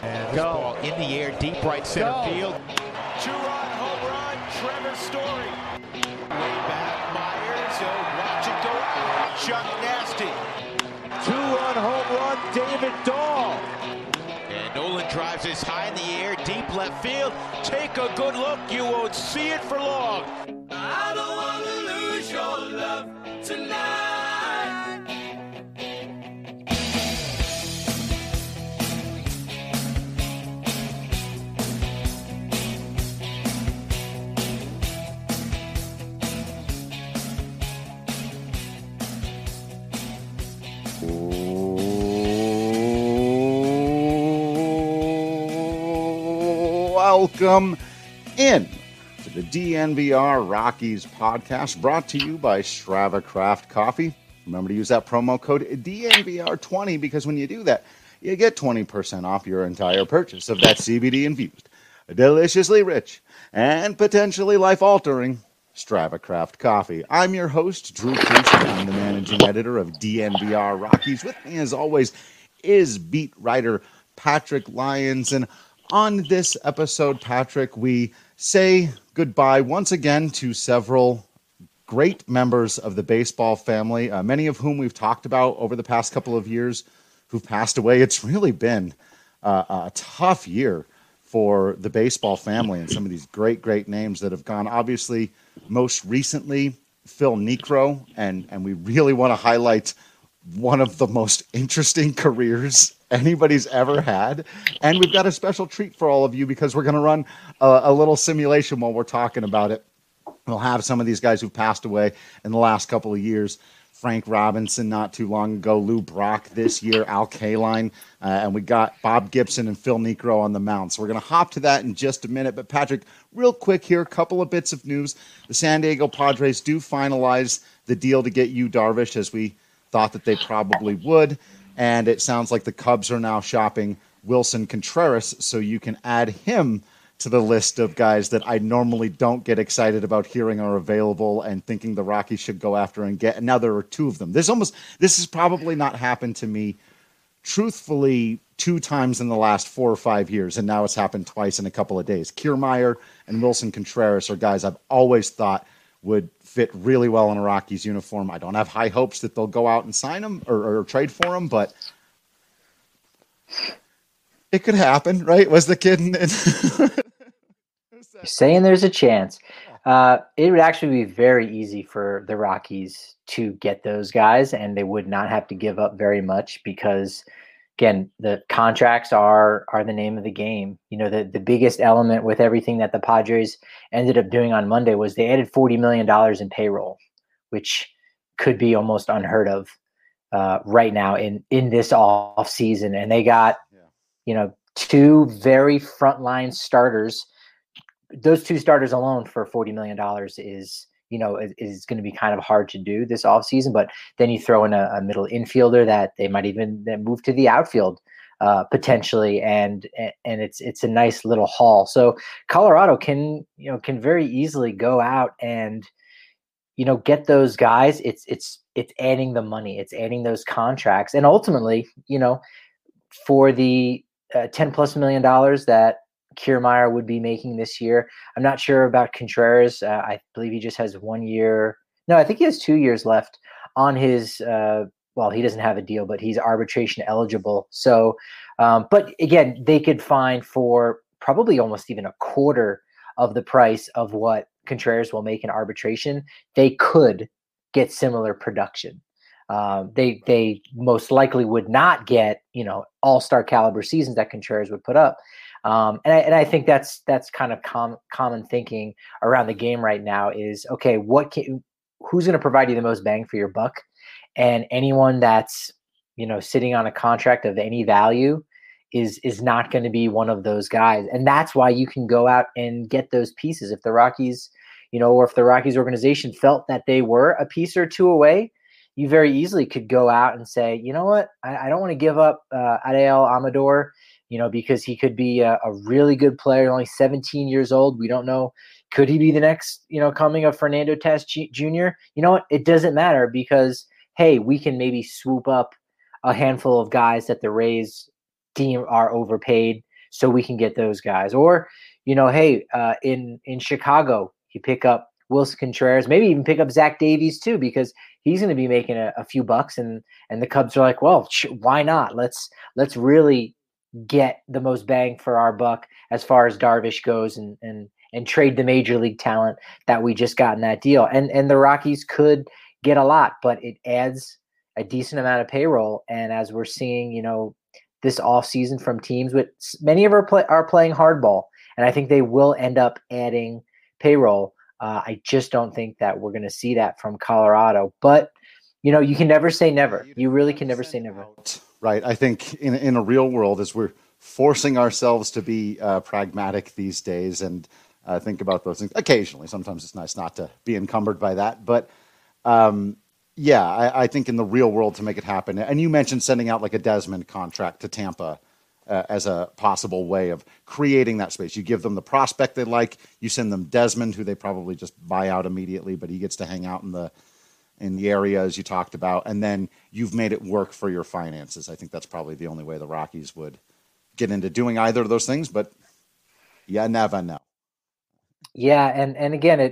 And this ball in the air, deep right center field. Two-run home run, Trevor Story. Way back, Myers. Watch it go out. Chuck Nasty. Two-run home run, David Dahl. And Nolan drives this high in the air, deep left field. Take a good look, you won't see it for long. I don't want to lose your love tonight. Welcome in to the DNVR Rockies podcast, brought to you by Strava Craft Coffee. Remember to use that promo code DNVR20 because when you do that, you get 20% off your entire purchase of that CBD-infused, deliciously rich, and potentially life-altering Strava Craft Coffee. I'm your host, Drew Creasy. I'm the managing editor of DNVR Rockies. With me, as always, is beat writer Patrick Lyons. And on this episode, Patrick, we say goodbye once again to several great members of the baseball family, many of whom we've talked about over the past couple of years who've passed away. It's really been a tough year for the baseball family and some of these great, great names that have gone. Obviously, most recently, Phil Niekro, and we really want to highlight one of the most interesting careers anybody's ever had. And we've got a special treat for all of you because we're going to run a little simulation while we're talking about it. We'll have some of these guys who've passed away in the last couple of years. Frank Robinson not too long ago, Lou Brock this year, Al Kaline, and we got Bob Gibson and Phil Niekro on the mound. So we're going to hop to that in just a minute. But Patrick, real quick here, a couple of bits of news. The San Diego Padres do finalize the deal to get Yu Darvish, as we thought that they probably would. And it sounds like the Cubs are now shopping Wilson Contreras, so you can add him to the list of guys that I normally don't get excited about hearing are available and thinking the Rockies should go after and get. And now there are two of them. This has probably not happened to me, truthfully, 2 times in the last 4 or 5 years, and now it's happened twice in a couple of days. Kiermaier and Wilson Contreras are guys I've always thought would fit really well in a Rockies uniform. I don't have high hopes that they'll go out and sign them or trade for them, but it could happen, right? Was the kid saying there's a chance? It would actually be very easy for the Rockies to get those guys, and they would not have to give up very much because, again, the contracts are the name of the game. You know, the biggest element with everything that the Padres ended up doing on Monday was they added $40 million in payroll, which could be almost unheard of right now in this off season. And they got, 2 very frontline starters. Those 2 starters alone for $40 million is going to be kind of hard to do this offseason. But then you throw in a middle infielder that they might even then move to the outfield potentially, and it's a nice little haul. So Colorado can very easily go out and get those guys. It's adding the money, it's adding those contracts, and ultimately, for the $10+ million that Kiermaier would be making this year. I'm not sure about Contreras. I believe he just has 1 year. No, I think he has 2 years left on his. Well, he doesn't have a deal, but he's arbitration eligible. So, but again, they could find for probably almost even a quarter of the price of what Contreras will make in arbitration. They could get similar production. They most likely would not get, all-star caliber seasons that Contreras would put up. And I think that's kind of common thinking around the game right now is, okay, who's going to provide you the most bang for your buck? And anyone that's, sitting on a contract of any value is not going to be one of those guys. And that's why you can go out and get those pieces. If the Rockies, or if the Rockies organization felt that they were a piece or two away, you very easily could go out and say, you know what, I don't want to give up Ariel Amador, because he could be a really good player, only 17 years old. We don't know. Could he be the next, coming of Fernando Tatis Jr.? You know what? It doesn't matter because, hey, we can maybe swoop up a handful of guys that the Rays deem are overpaid so we can get those guys. Or, hey, in Chicago, you pick up Wilson Contreras, maybe even pick up Zach Davies too, because he's going to be making a few bucks, and the Cubs are like, well, why not? Let's really get the most bang for our buck as far as Darvish goes, and trade the major league talent that we just got in that deal. And the Rockies could get a lot, but it adds a decent amount of payroll. And as we're seeing, this offseason from teams with many of are playing hardball, and I think they will end up adding payroll. I just don't think that we're going to see that from Colorado. But, you can never say never. You really can never say never. Right. I think in a real world, as we're forcing ourselves to be pragmatic these days and think about those things occasionally, sometimes it's nice not to be encumbered by that. But I think in the real world to make it happen. And you mentioned sending out like a Desmond contract to Tampa as a possible way of creating that space. You give them the prospect they like. You send them Desmond, who they probably just buy out immediately, but he gets to hang out in the areas you talked about, and then you've made it work for your finances. I think that's probably the only way the Rockies would get into doing either of those things, but you never know. Yeah, and again,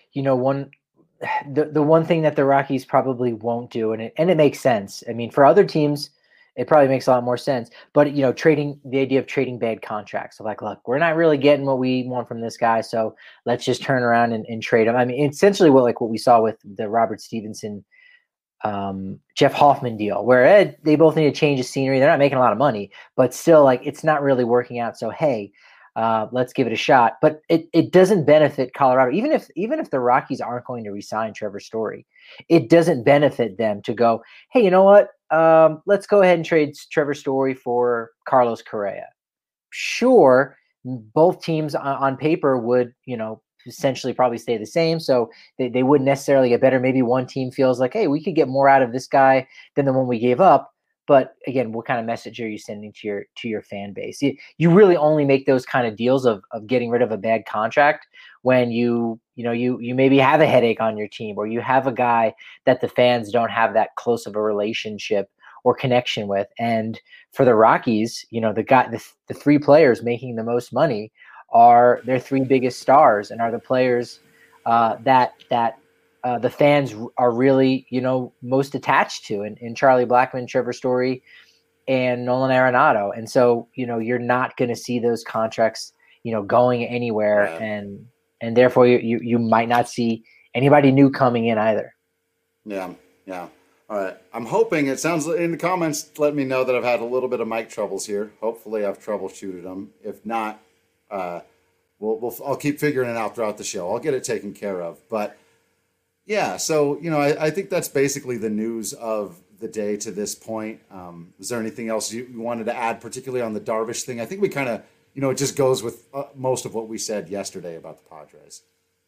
the one thing that the Rockies probably won't do, and it makes sense. I mean, for other teams, it probably makes a lot more sense. But the idea of trading bad contracts. So like, look, we're not really getting what we want from this guy, so let's just turn around and trade him. I mean, essentially what we saw with the Robert Stevenson, Jeff Hoffman deal, where they both need to change the scenery. They're not making a lot of money, but still, like, it's not really working out. So hey, let's give it a shot. But it doesn't benefit Colorado, even if the Rockies aren't going to re-sign Trevor Story. It doesn't benefit them to go, hey, you know what? Let's go ahead and trade Trevor Story for Carlos Correa. Sure, both teams on paper would, essentially probably stay the same. So they wouldn't necessarily get better. Maybe one team feels like, hey, we could get more out of this guy than the one we gave up. But again, what kind of message are you sending to your fan base? You really only make those kind of deals of getting rid of a bad contract when you maybe have a headache on your team, or you have a guy that the fans don't have that close of a relationship or connection with. And for the Rockies, the three players making the most money are their three biggest stars, and are the players that the fans are really, most attached to, in Charlie Blackmon, Trevor Story, and Nolan Arenado. And so, you're not going to see those contracts, going anywhere. Yeah. And therefore you might not see anybody new coming in either. Yeah. Yeah. All right. I'm hoping, it sounds in the comments, let me know that I've had a little bit of mic troubles here. Hopefully I've troubleshooted them. If not, I'll keep figuring it out throughout the show. I'll get it taken care of. But yeah, so, I think that's basically the news of the day to this point. Is there anything else you wanted to add, particularly on the Darvish thing? I think we kind of, it just goes with most of what we said yesterday about the Padres.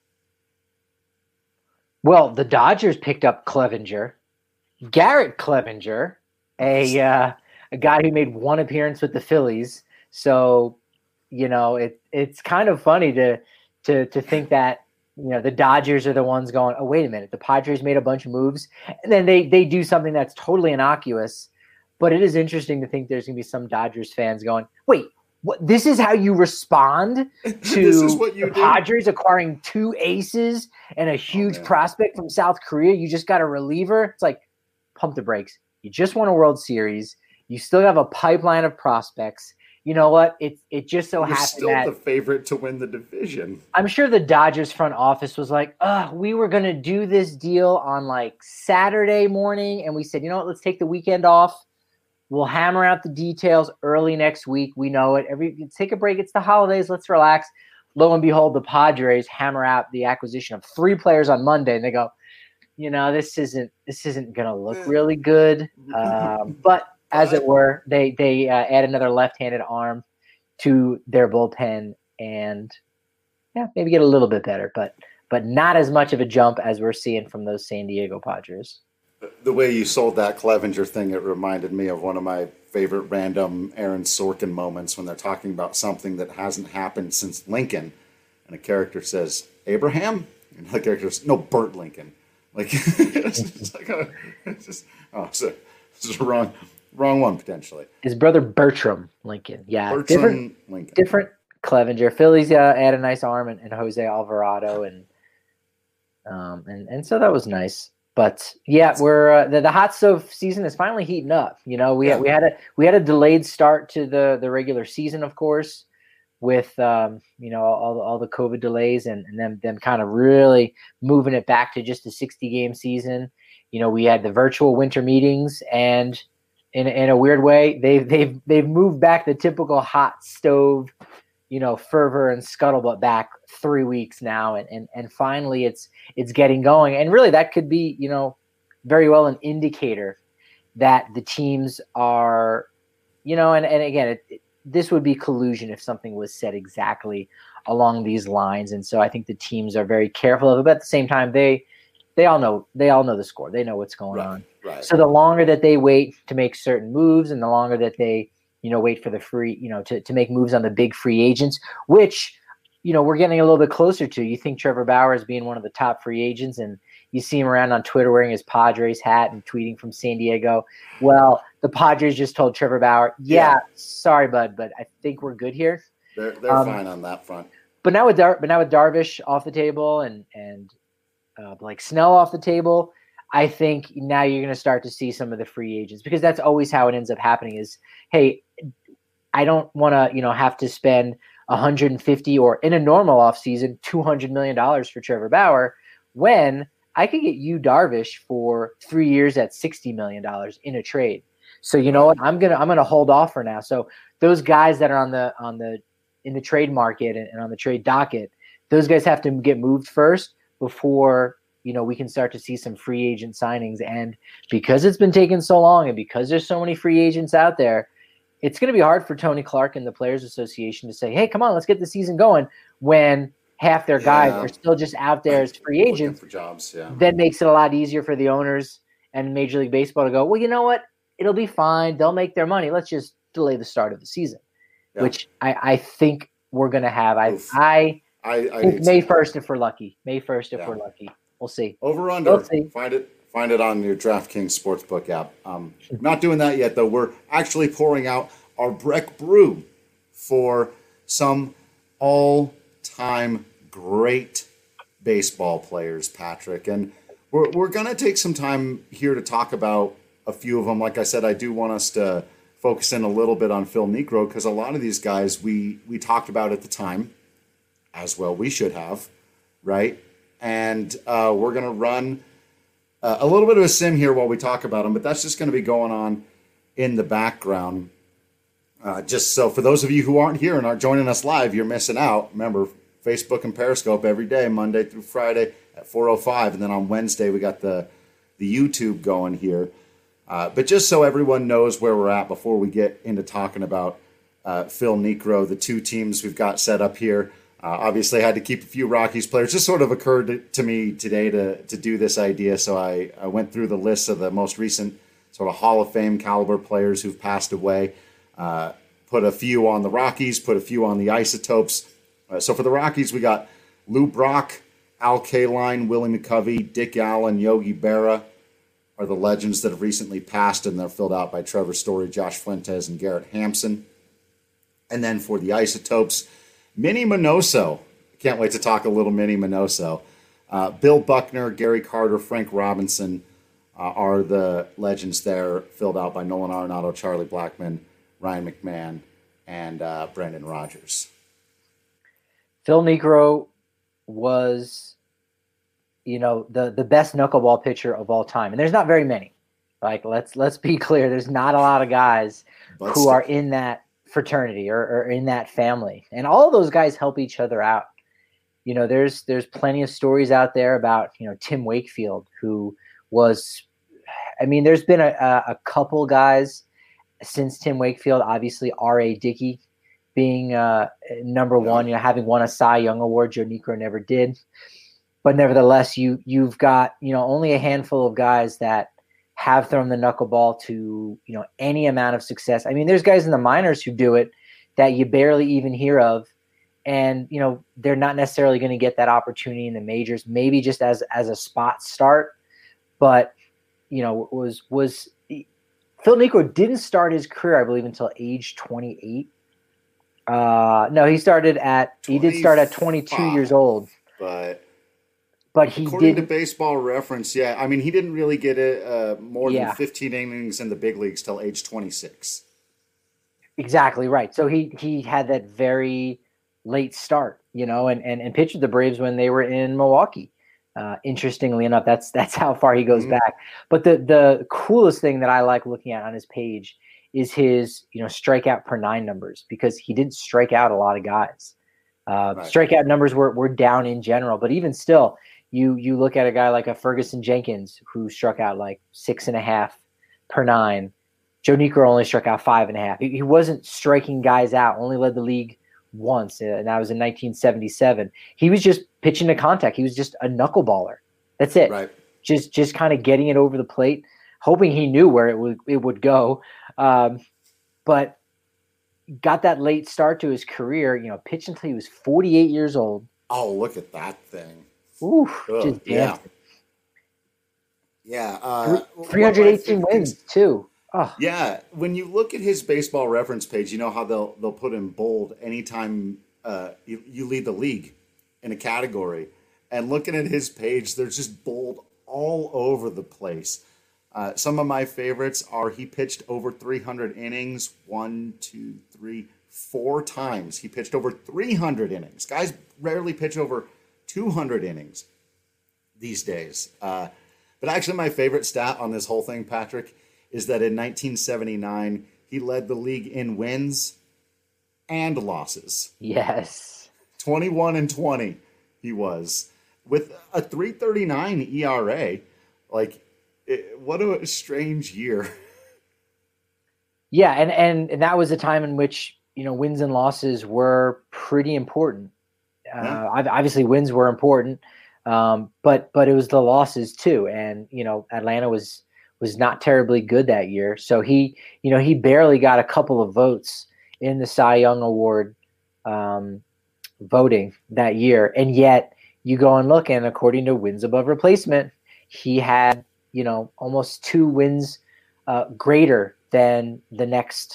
Well, the Dodgers picked up Clevinger, Garrett Clevinger, a guy who made one appearance with the Phillies. So, it's kind of funny to think that, the Dodgers are the ones going, oh, wait a minute, the Padres made a bunch of moves, and then they do something that's totally innocuous. But it is interesting to think there's going to be some Dodgers fans going, wait, what? This is how you respond to the Padres acquiring two aces and a huge prospect from South Korea? You just got a reliever. It's like, pump the brakes. You just won a World Series. You still have a pipeline of prospects. You know what? It just so happened still that the favorite to win the division. I'm sure the Dodgers front office was like, we were going to do this deal on like Saturday morning. And we said, you know what? Let's take the weekend off. We'll hammer out the details early next week. We know it. Take a break. It's the holidays. Let's relax. Lo and behold, the Padres hammer out the acquisition of three players on Monday, and they go, this isn't going to look really good. But as it were, they add another left-handed arm to their bullpen, and maybe get a little bit better, but not as much of a jump as we're seeing from those San Diego Padres. The way you sold that Clevinger thing, it reminded me of one of my favorite random Aaron Sorkin moments when they're talking about something that hasn't happened since Lincoln, and a character says, Abraham? And the character says, no, Burt Lincoln. Like, it's just wrong. wrong one potentially. His brother Bertram Lincoln. Yeah, Bertram Lincoln. different Clevenger. Phillies had a nice arm and Jose Alvarado and so that was nice. But yeah, we're the hot stove season is finally heating up. You know, we had a delayed start to the regular season, of course, with all the COVID delays and them kind of really moving it back to just a 60-game season. You know, we had the virtual winter meetings, and in a weird way, they've moved back the typical hot stove, fervor and scuttlebutt back 3 weeks now, and finally it's getting going. And really, that could be very well an indicator that the teams are, and again, this would be collusion if something was said exactly along these lines. And so I think the teams are very careful of it, but at the same time, they all know the score. They know what's going on. Right. So the longer that they wait to make certain moves, and the longer that they wait for the free, to make moves on the big free agents, which, we're getting a little bit closer to. You think Trevor Bauer is being one of the top free agents, and you see him around on Twitter wearing his Padres hat and tweeting from San Diego. Well, the Padres just told Trevor Bauer, sorry, bud, but I think we're good here. They're fine on that front. But now with Darvish off the table and Blake Snell off the table, I think now you're going to start to see some of the free agents, because that's always how it ends up happening is, hey, I don't want to, have to spend 150 or in a normal offseason, $200 million for Trevor Bauer when I could get you Darvish for 3 years at $60 million in a trade. So you know what? I'm gonna hold off for now. So those guys that are in the trade market and on the trade docket, those guys have to get moved first before we can start to see some free agent signings. And because it's been taking so long, and because there's so many free agents out there, it's going to be hard for Tony Clark and the Players Association to say, hey, come on, let's get the season going, when half their guys are still just out there as free agents. For jobs, yeah. That makes it a lot easier for the owners and Major League Baseball to go, well, you know what? It'll be fine. They'll make their money. Let's just delay the start of the season, which I think we're going to have. I think May 1st if we're lucky. May 1st if we're lucky. We'll see. Over under. We'll see. Find it on your DraftKings Sportsbook app. Not doing that yet, though. We're actually pouring out our Breck Brew for some all-time great baseball players, Patrick. And we're going to take some time here to talk about a few of them. Like I said, I do want us to focus in a little bit on Phil Niekro, because a lot of these guys we talked about at the time, as well we should have, right? And we're going to run a little bit of a sim here while we talk about them, but that's just going to be going on in the background. Just so for those of you who aren't here and aren't joining us live, you're missing out. Remember, Facebook and Periscope every day, Monday through Friday at 4:05, and then on Wednesday we got the YouTube going here. But just so everyone knows where we're at before we get into talking about Phil Niekro, the two teams we've got set up here. Obviously, I had to keep a few Rockies players. Just sort of occurred to me today to do this idea, so I went through the list of the most recent sort of Hall of Fame caliber players who've passed away. Put a few on the Rockies, put a few on the Isotopes. So for the Rockies, we got Lou Brock, Al Kaline, Willie McCovey, Dick Allen, Yogi Berra are the legends that have recently passed, and they're filled out by Trevor Story, Josh Fuentes, and Garrett Hampson. And then for the Isotopes, Minnie Minoso. Can't wait to talk a little Minnie Minoso. Bill Buckner, Gary Carter, Frank Robinson are the legends there, filled out by Nolan Arenado, Charlie Blackmon, Ryan McMahon, and Brendan Rodgers. Phil Niekro was, the best knuckleball pitcher of all time, and there's not very many. Like, let's be clear, there's not a lot of guys who are in that fraternity or in that family, and all of those guys help each other out. There's plenty of stories out there about Tim Wakefield, who was, there's been a couple guys since Tim Wakefield, obviously R.A. Dickey being number one, having won a Cy Young Award. Joe Niekro never did, but nevertheless, you've got only a handful of guys that have thrown the knuckleball to any amount of success. There's guys in the minors who do it that you barely even hear of, and they're not necessarily going to get that opportunity in the majors, maybe just as a spot start. But was Phil Niekro didn't start his career, I believe, until age 28. No, he did start at 22 years old. But he according did to Baseball Reference, yeah. I mean, he didn't really get more than 15 innings in the big leagues till age 26. Exactly right. So he had that very late start, and pitched with the Braves when they were in Milwaukee. Interestingly enough, that's how far he goes back. But the coolest thing that I like looking at on his page is his strikeout per 9 numbers, because he didn't strike out a lot of guys. Strikeout numbers were down in general, but even still, you look at a guy like a Ferguson Jenkins who struck out like 6.5 per 9. Joe Niekro only struck out 5.5. He wasn't striking guys out. Only led the league once, and that was in 1977. He was just pitching to contact. He was just a knuckleballer. That's it. Right. Just kind of getting it over the plate, hoping he knew where it would go. But got that late start to his career. Pitched until he was 48 years old. Oh, look at that thing! Ooh, just dancing. Yeah. 318 wins too. Oh. Yeah, when you look at his Baseball Reference page, you know how they'll put in bold anytime you lead the league in a category. And looking at his page, there's just bold all over the place. Some of my favorites are he pitched over 300 innings, 4 times. He pitched over 300 innings. Guys rarely pitch over 200 innings these days. But actually, my favorite stat on this whole thing, Patrick, is that in 1979, he led the league in wins and losses. Yes. 21-20 he was, with a 3.39 ERA. What a strange year. Yeah, and that was a time in which, wins and losses were pretty important. Obviously, wins were important, but it was the losses too. And, Atlanta was not terribly good that year. So he barely got a couple of votes in the Cy Young Award voting that year. And yet you go and look, and according to wins above replacement, he had, almost 2 wins greater than the next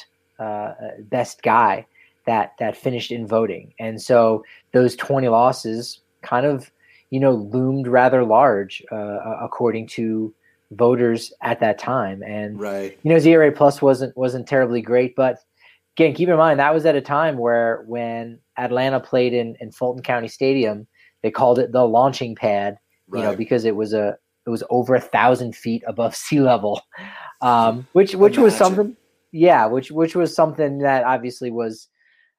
best guy that finished in voting. And so those 20 losses kind of, loomed rather large according to voters at that time. And right. His ERA plus wasn't terribly great, but again, keep in mind that was at a time where when Atlanta played in Fulton County Stadium, they called it the launching pad, right. Because it was over 1,000 feet above sea level, which was something, which was something that obviously was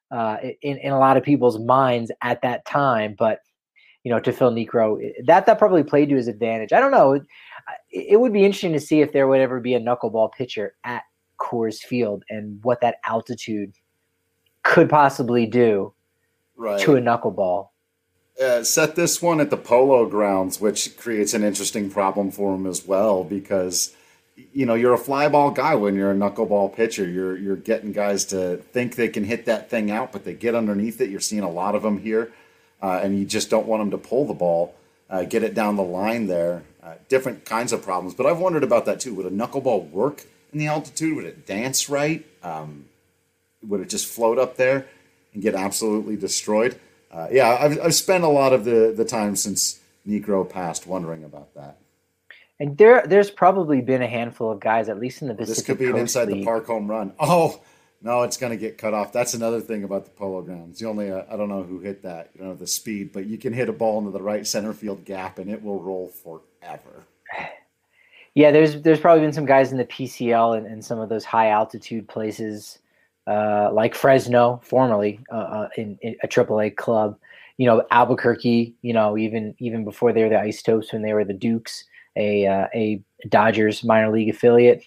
in a lot of people's minds at that time, but to Phil Niekro, that probably played to his advantage. I don't know. It would be interesting to see if there would ever be a knuckleball pitcher at Coors Field and what that altitude could possibly do to a knuckleball. Set this one at the Polo Grounds, which creates an interesting problem for him as well, because you're a fly ball guy when you're a knuckleball pitcher. You're getting guys to think they can hit that thing out, but they get underneath it. You're seeing a lot of them here, and you just don't want them to pull the ball, get it down the line there. Different kinds of problems, but I've wondered about that too. Would a knuckleball work in the altitude? Would it dance right? Would it just float up there and get absolutely destroyed? I've spent a lot of the time since Niekro passed wondering about that. And there's probably been a handful of guys, at least in the Pacific This could be an inside the park home run. Oh, no, it's going to get cut off. That's another thing about the Polo Grounds. You only, I don't know who hit that. You don't have the speed, but you can hit a ball into the right center field gap and it will roll forever. Yeah, there's probably been some guys in the PCL and some of those high altitude places, like Fresno, formerly in a AAA club. Albuquerque. Even before they were the Isotopes, when they were the Dukes, a Dodgers minor league affiliate.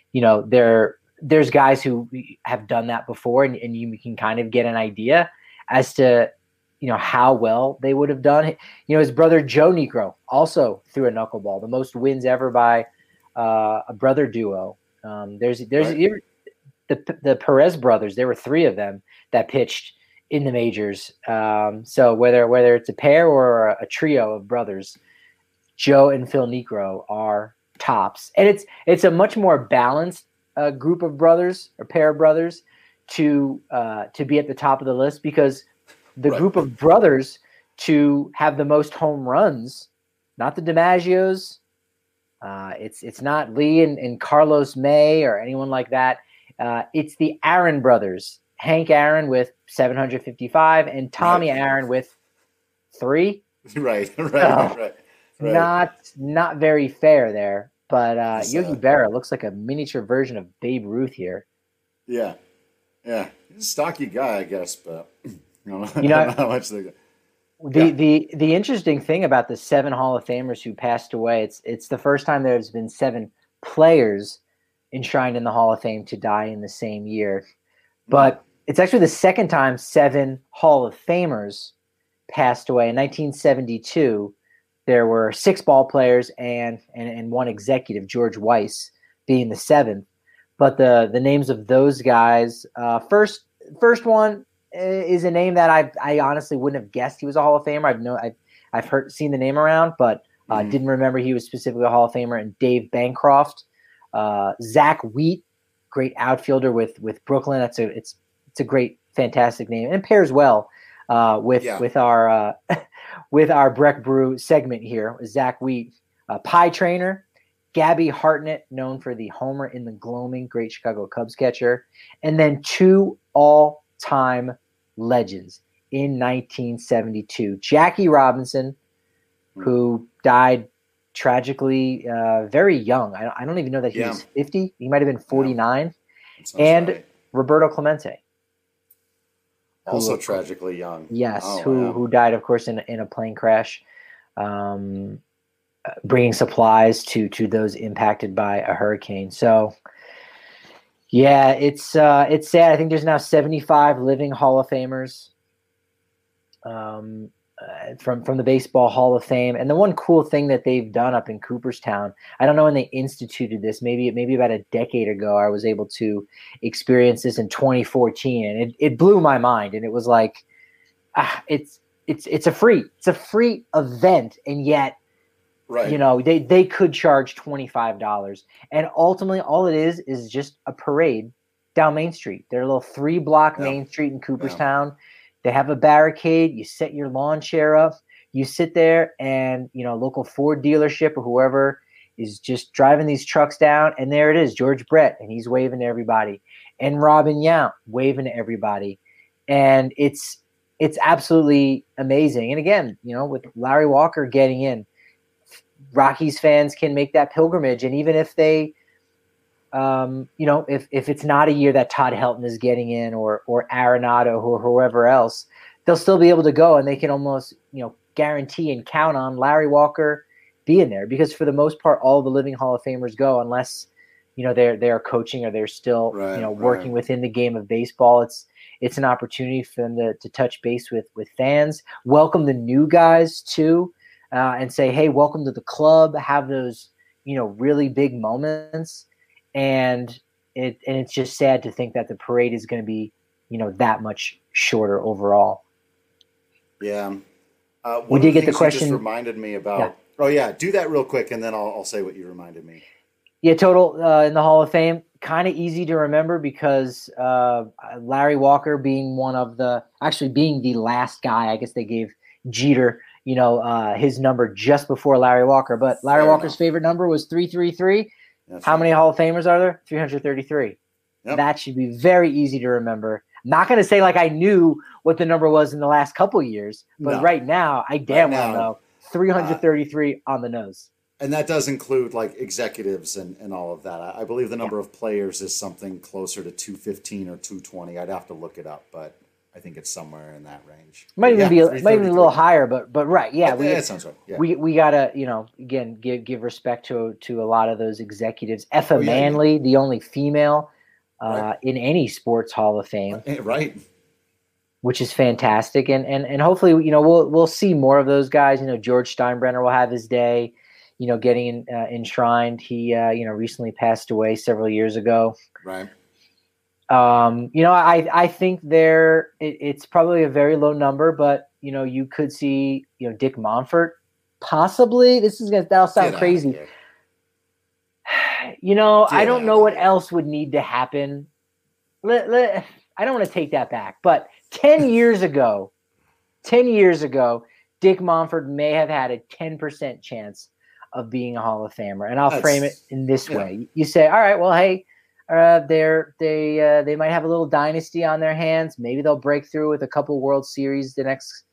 There's guys who have done that before, and you can kind of get an idea as to how well they would have done. His brother Joe Niekro also threw a knuckleball, the most wins ever by a brother duo. There's right. The Perez brothers. There were 3 of them that pitched in the majors. So whether it's a pair or a trio of brothers, Joe and Phil Niekro are tops, and it's a much more balanced group of brothers or pair of brothers to be at the top of the list, because the group of brothers to have the most home runs, not the DiMaggios, it's not Lee and Carlos May or anyone like that. It's the Aaron brothers, Hank Aaron with 755 and Tommy Aaron with 3. Right. Not very fair there. But Yogi Berra looks like a miniature version of Babe Ruth here. Yeah. He's a stocky guy, I guess, but I don't know how much they got. The interesting thing about the 7 Hall of Famers who passed away, it's the first time there's been 7 players enshrined in the Hall of Fame to die in the same year. But it's actually the second time 7 Hall of Famers passed away. In 1972, there were 6 ball players and 1 executive, George Weiss being the 7th. But the names of those guys, first one is a name that I honestly wouldn't have guessed he was a Hall of Famer. I've seen the name around, but didn't remember he was specifically a Hall of Famer. And Dave Bancroft, Zach Wheat, great outfielder with Brooklyn. It's a great, fantastic name, and it pairs well with our with our Breck Brew segment here. Zach Wheat, Pie Trainer, Gabby Hartnett, known for the homer in the gloaming, great Chicago Cubs catcher, and then 2 all-time legends in 1972. Jackie Robinson, who died tragically very young. I don't even know that he was 50. He might have been 49. And right. Roberto Clemente. Also tragically young. Yes, who died, of course, in a plane crash, bringing supplies to those impacted by a hurricane. So, yeah, it's sad. I think there's now 75 living Hall of Famers from the Baseball Hall of Fame. And the one cool thing that they've done up in Cooperstown, I don't know when they instituted this, maybe about a decade ago, I was able to experience this in 2014, and it blew my mind. And it was like, it's a free event, and yet, right, they could charge $25, and ultimately all it is just a parade down Main Street. They're a little 3-block Main Street in Cooperstown. Yeah. They have a barricade. You set your lawn chair up. You sit there, and local Ford dealership or whoever is just driving these trucks down, and there it is, George Brett, and he's waving to everybody, and Robin Yount waving to everybody, and it's absolutely amazing. And again, with Larry Walker getting in, Rockies fans can make that pilgrimage, and even if they, if it's not a year that Todd Helton is getting in or Arenado or whoever else, they'll still be able to go, and they can almost, guarantee and count on Larry Walker being there, because for the most part, all the living Hall of Famers go, unless, they're coaching or they're still, working within the game of baseball. It's an opportunity for them to touch base with fans, welcome the new guys too, and say, hey, welcome to the club, have those, really big moments. And it's just sad to think that the parade is going to be, that much shorter overall. Yeah. We did get the question. You just reminded me about. Yeah. Oh yeah, do that real quick, and then I'll say what you reminded me. Yeah, total in the Hall of Fame, kind of easy to remember because Larry Walker being being the last guy. I guess they gave Jeter, his number just before Larry Walker, but Larry Walker's favorite number was 333. How many Hall of Famers are there? 333. Yep. That should be very easy to remember. I'm not going to say like I knew what the number was in the last couple of years, but right now I damn well know 333 on the nose. And that does include like executives and all of that. I believe the number of players is something closer to 215 or 220. I'd have to look it up, but I think it's somewhere in that range. Might even be a little higher, but right, yeah. That sounds right. Yeah. We gotta, again, give respect to a lot of those executives. Effa Manley, the only female in any sports Hall of Fame, right? Which is fantastic, and hopefully, we'll see more of those guys. George Steinbrenner will have his day, getting enshrined. He recently passed away several years ago. Right. I think it's probably a very low number, but you could see, Dick Monfort, possibly. That'll sound crazy. I don't know what else would need to happen. I don't want to take that back, but 10 years ago, Dick Monfort may have had a 10% chance of being a Hall of Famer. And I'll frame it in this way. You say, all right, well, hey, they might have a little dynasty on their hands. Maybe they'll break through with a couple World Series the next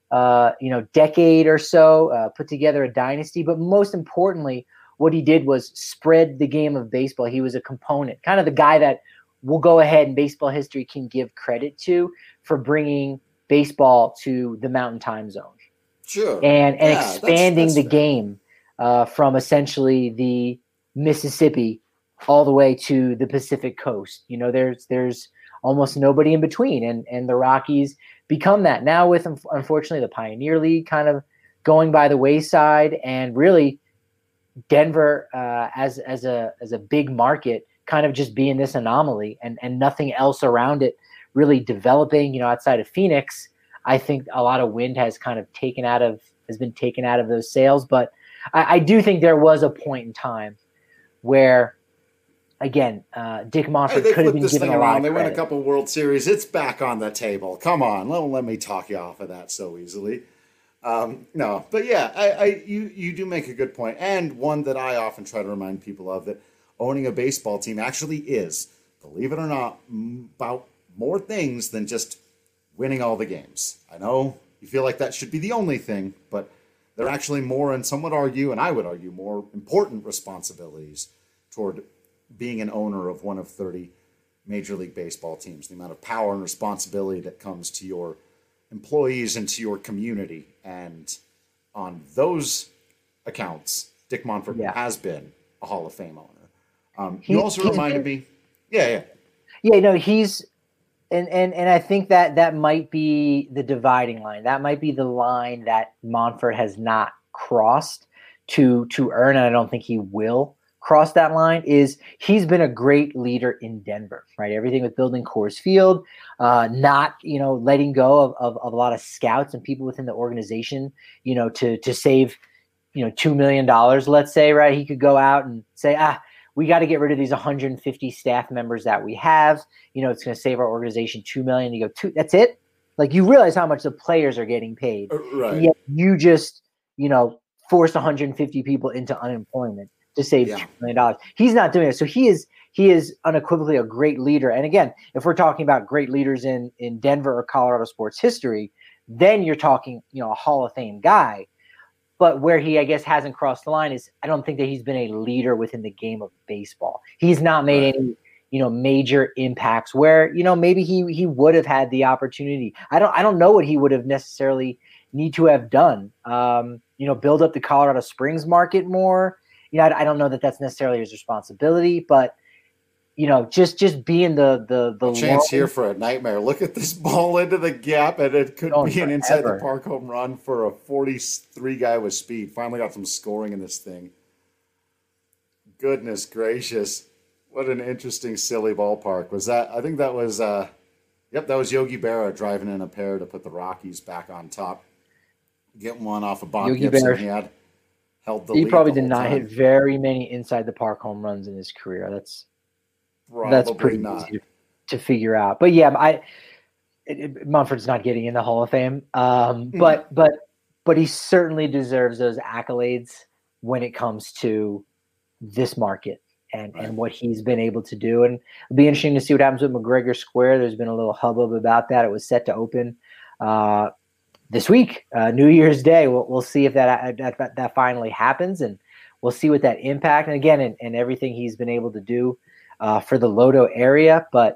decade or so, put together a dynasty. But most importantly, what he did was spread the game of baseball. He was a component, kind of the guy that we'll go ahead and baseball history can give credit to for bringing baseball to the Mountain Time Zone. Sure. And expanding the game from essentially the Mississippi all the way to the Pacific Coast. There's almost nobody in between, and the Rockies become that now with, unfortunately, the Pioneer League kind of going by the wayside, and really Denver as a big market kind of just being this anomaly and nothing else around it really developing. Outside of Phoenix, I think a lot of wind has kind of been taken out of those sails. But I do think there was a point in time where, again, Dick Monfort could have been given a lot of credit. They win a couple World Series. It's back on the table. Come on, don't let me talk you off of that so easily. No, but yeah, you do make a good point, and one that I often try to remind people of, that owning a baseball team actually is, believe it or not, about more things than just winning all the games. I know you feel like that should be the only thing, but there are actually more, and some would argue, and I would argue, more important responsibilities toward being an owner of one of 30 Major League Baseball teams. The amount of power and responsibility that comes to your employees and to your community. And on those accounts, Dick Monfort has been a Hall of Fame owner. You also reminded me. Yeah, he's and I think that might be the dividing line. That might be the line that Monfort has not crossed to earn, and I don't think he will cross that line. Is he's been a great leader in Denver, right? Everything with building Coors Field, not letting go of a lot of scouts and people within the organization, to save $2 million, let's say, right? He could go out and say, we got to get rid of these 150 staff members that we have. It's going to save our organization $2 million. You go, that's it? Like, you realize how much the players are getting paid. Right. And yet you just, forced 150 people into unemployment to save $2 million. He's not doing it. So he is unequivocally a great leader. And again, if we're talking about great leaders in Denver or Colorado sports history, then you're talking, a Hall of Fame guy. But where he, I guess, hasn't crossed the line is, I don't think that he's been a leader within the game of baseball. He's not made any, major impacts where, maybe he would have had the opportunity. I don't know what he would have necessarily need to have done. Build up the Colorado Springs market more. I don't know that that's necessarily his responsibility, but just being the chance here for a nightmare. Look at this ball into the gap, and it could be an inside the park home run for a 43 guy with speed. Finally got some scoring in this thing. Goodness gracious. What an interesting, silly ballpark. Was that? I think that was that was Yogi Berra driving in a pair to put the Rockies back on top. Getting one off of Bob Gibson. Berra, he had held the lead. He probably did not hit very many inside the park home runs in his career. That's pretty easy to figure out. But yeah, Monfort's not getting in the Hall of Fame. But he certainly deserves those accolades when it comes to this market and what he's been able to do. And it'll be interesting to see what happens with McGregor Square. There's been a little hubbub about that. It was set to open this week, New Year's Day. We'll see if that finally happens, and we'll see what that impact. And again, and everything he's been able to do for the Lodo area, but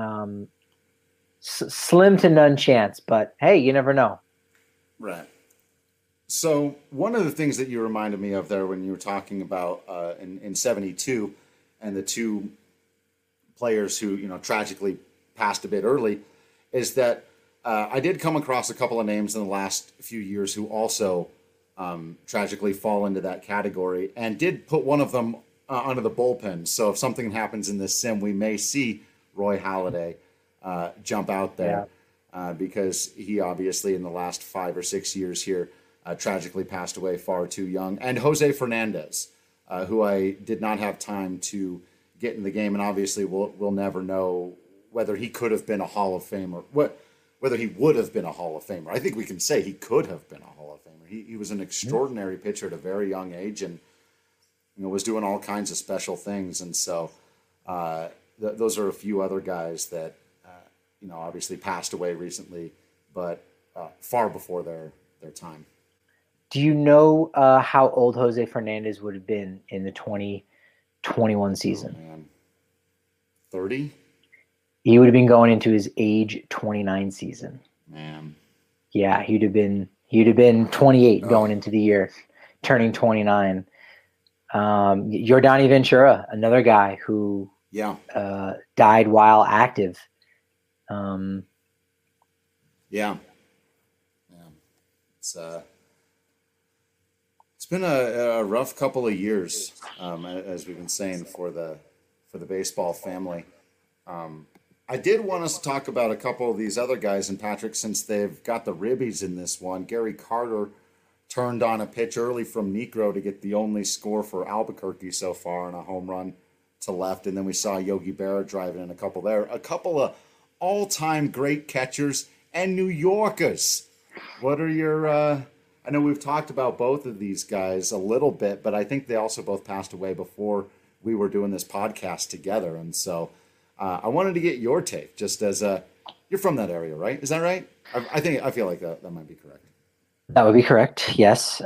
slim to none chance. But hey, you never know. Right. So one of the things that you reminded me of there when you were talking about in 72 and the two players who tragically passed a bit early is that I did come across a couple of names in the last few years who also tragically fall into that category, and did put one of them under the bullpen. So if something happens in this sim, we may see Roy Halladay jump out there because he obviously in the last 5 or 6 years here tragically passed away far too young. And Jose Fernandez, who I did not have time to get in the game, and obviously we'll never know whether he could have been a Hall of Famer, whether he would have been a Hall of Famer. I think we can say he could have been a Hall of Famer. He was an extraordinary pitcher at a very young age, and was doing all kinds of special things. And so those are a few other guys that obviously passed away recently, but far before their time. Do you know how old Jose Fernandez would have been in the 2021 season? Oh, man. 30? He would have been going into his age 29 season. Man. Yeah, he'd have been 28 going into the year, turning 29. Yordany Ventura, another guy who died while active. It's been a rough couple of years, as we've been saying, for the baseball family. I did want us to talk about a couple of these other guys, and Patrick, since they've got the ribbies in this one, Gary Carter turned on a pitch early from Niekro to get the only score for Albuquerque so far on a home run to left, and then we saw Yogi Berra driving in a couple there. A couple of all-time great catchers and New Yorkers. What are your I know we've talked about both of these guys a little bit, but I think they also both passed away before we were doing this podcast together. And so I wanted to get your take, just as you're from that area, right? Is that right? I feel like that might be correct. That would be correct. Yes.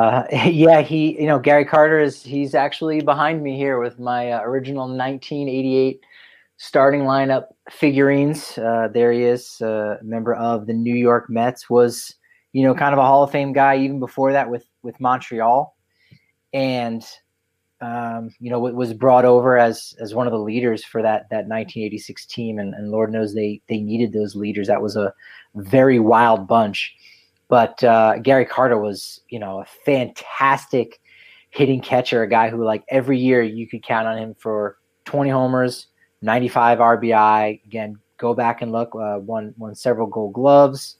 Gary Carter he's actually behind me here with my original 1988 starting lineup figurines. There he is, a member of the New York Mets, was, kind of a Hall of Fame guy even before that with Montreal. And, was brought over as one of the leaders for that 1986 team. And Lord knows they needed those leaders. That was a very wild bunch. But Gary Carter was, a fantastic hitting catcher, a guy who, like, every year you could count on him for 20 homers, 95 RBI. Again, go back and look. Won several Gold Gloves.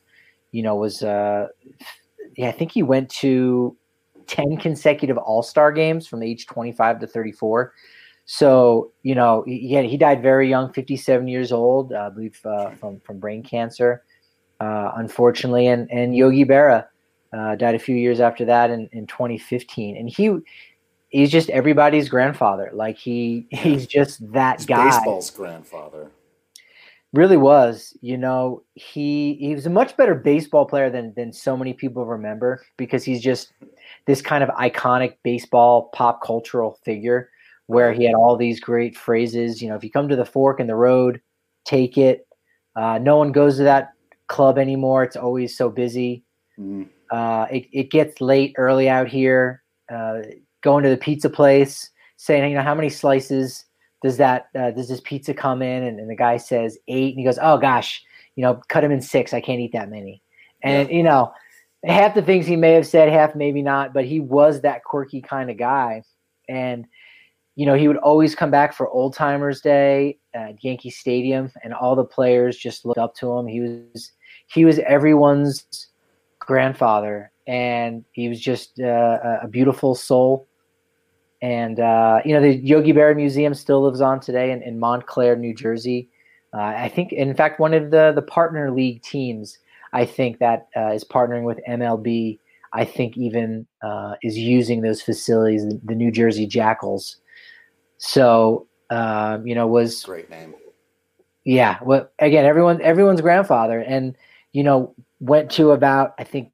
I think he went to 10 consecutive All-Star games from age 25 to 34. So, he died very young, 57 years old, I believe, from brain cancer. Unfortunately, and Yogi Berra died a few years after that in 2015, and he's just everybody's grandfather. Like he's just that guy. Baseball's grandfather. Really was. He was a much better baseball player than so many people remember, because he's just this kind of iconic baseball pop cultural figure where he had all these great phrases. If you come to the fork in the road, take it. No one goes to that club anymore. It's always so busy. Mm-hmm. It gets late early out here. Going to the pizza place, saying, how many slices does this pizza come in? And the guy says 8, and he goes, oh gosh, cut him in 6. I can't eat that many. And half the things he may have said, half maybe not, but he was that quirky kind of guy. And he would always come back for Old Timers Day at Yankee Stadium, and all the players just looked up to him. He was everyone's grandfather, and he was just a beautiful soul. And the Yogi Berra Museum still lives on today in Montclair, New Jersey. I think, in fact, one of the partner league teams, I think that is partnering with MLB, I think even is using those facilities, the New Jersey Jackals. So, was great name. Yeah. Well, again, everyone's grandfather, and, went to about, I think,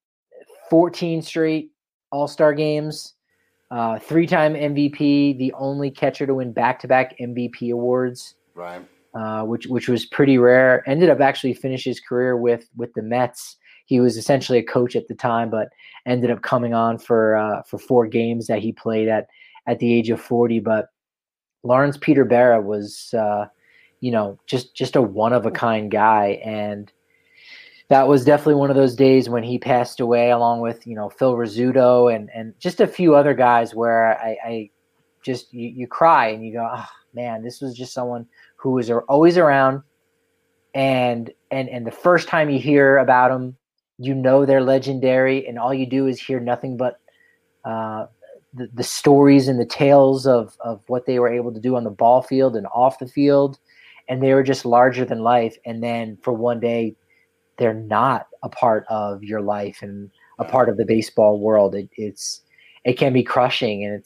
14 straight All-Star games, 3-time MVP, the only catcher to win back-to-back MVP awards. Right. Which was pretty rare. Ended up actually finish his career with the Mets. He was essentially a coach at the time, but ended up coming on for 4 games that he played at the age of 40. But Lawrence Peter Berra was, just a one-of-a-kind guy. And that was definitely one of those days when he passed away, along with, Phil Rizzuto and just a few other guys, where I just, you cry and you go, oh, man, this was just someone who was always around. And the first time you hear about them, they're legendary, and all you do is hear nothing but the stories and the tales of what they were able to do on the ball field and off the field, and they were just larger than life. And then for one day, they're not a part of your life and a part of the baseball world. It can be crushing, and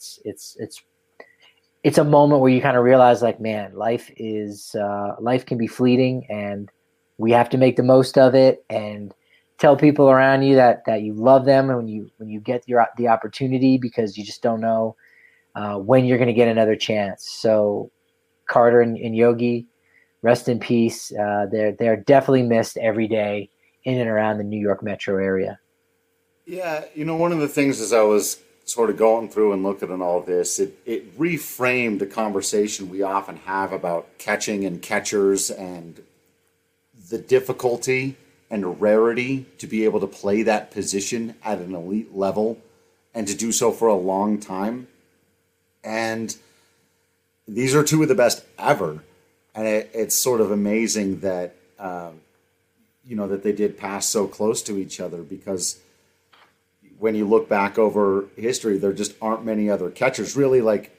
it's a moment where you kind of realize, like, man, life can be fleeting, and we have to make the most of it and tell people around you that you love them when you get the opportunity, because you just don't know when you're going to get another chance. So Carter and Yogi, rest in peace. They're definitely missed every day in and around the New York metro area. Yeah, one of the things as I was sort of going through and looking at all this, it reframed a conversation we often have about catching and catchers and the difficulty and rarity to be able to play that position at an elite level and to do so for a long time. And these are two of the best ever. And it's sort of amazing that, that they did pass so close to each other, because when you look back over history, there just aren't many other catchers really, like,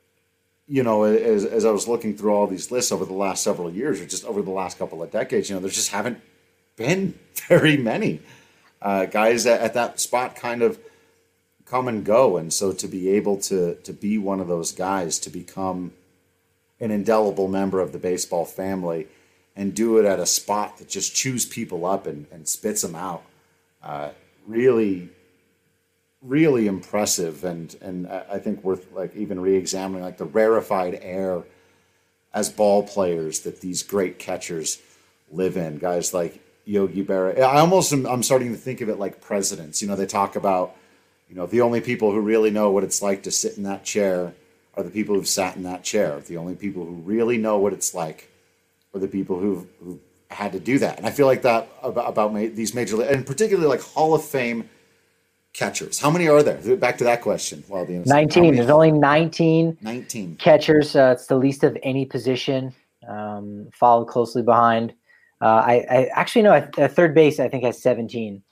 as I was looking through all these lists over the last several years, or just over the last couple of decades, there just haven't been very many guys at that spot kind of come and go. And so to be able to be one of those guys, to become an indelible member of the baseball family and do it at a spot that just chews people up and spits them out, really, really impressive. And I think worth like even re-examining, like the rarefied air as ball players that these great catchers live in. Guys like Yogi Berra. I'm starting to think of it like presidents. They talk about, the only people who really know what it's like to sit in that chair are the people who've sat in that chair. The only people who really know what it's like are the people who've had to do that. And I feel like that about these major, and particularly like Hall of Fame catchers. How many are there? Back to that question. 19. There's only 19 catchers. It's the least of any position, followed closely behind. I actually know at third base, I think has 17.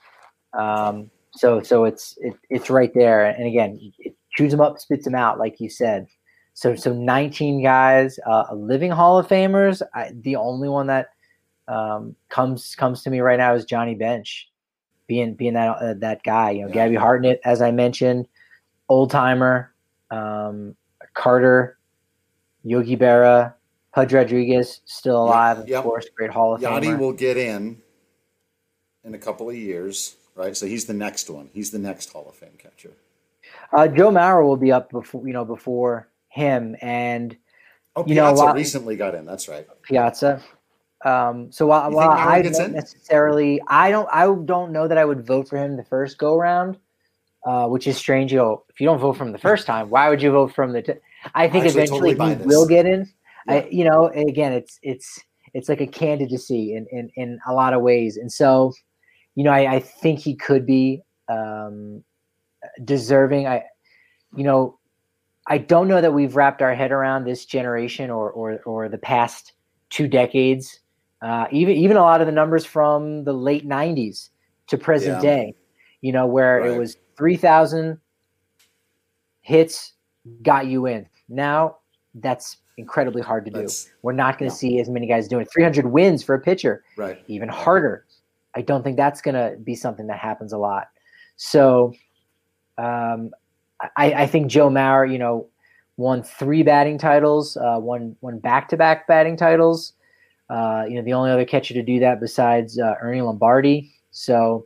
So it's right there. And again, it chews them up, spits them out, like you said. So 19 guys, living Hall of Famers. The only one that comes to me right now is Johnny Bench, being that guy. Gabby Hartnett, as I mentioned, old timer, Carter, Yogi Berra, Pudge Rodriguez, still alive, of course, great Hall of Famer. Yachty will get in a couple of years, right? So he's the next one. He's the next Hall of Fame catcher. Joe Mauer will be up before him, and Piazza recently got in. That's right, Piazza. So while I don't necessarily, I don't know that I would vote for him the first go round, which is strange. If you don't vote from the first time, why would you vote from the? I think eventually he will get in. Yeah. Again, it's like a candidacy in a lot of ways, and so, I think he could be deserving. I don't know that we've wrapped our head around this generation or the past 2 decades. Even a lot of the numbers from the late 90s to present day, where it was 3,000 hits got you in. Now that's incredibly hard to do. We're not going to see as many guys doing it. 300 wins for a pitcher, right? Even harder. I don't think that's going to be something that happens a lot. So I think Joe Mauer, won 3 batting titles, won back-to-back batting titles. The only other catcher to do that besides Ernie Lombardi. So,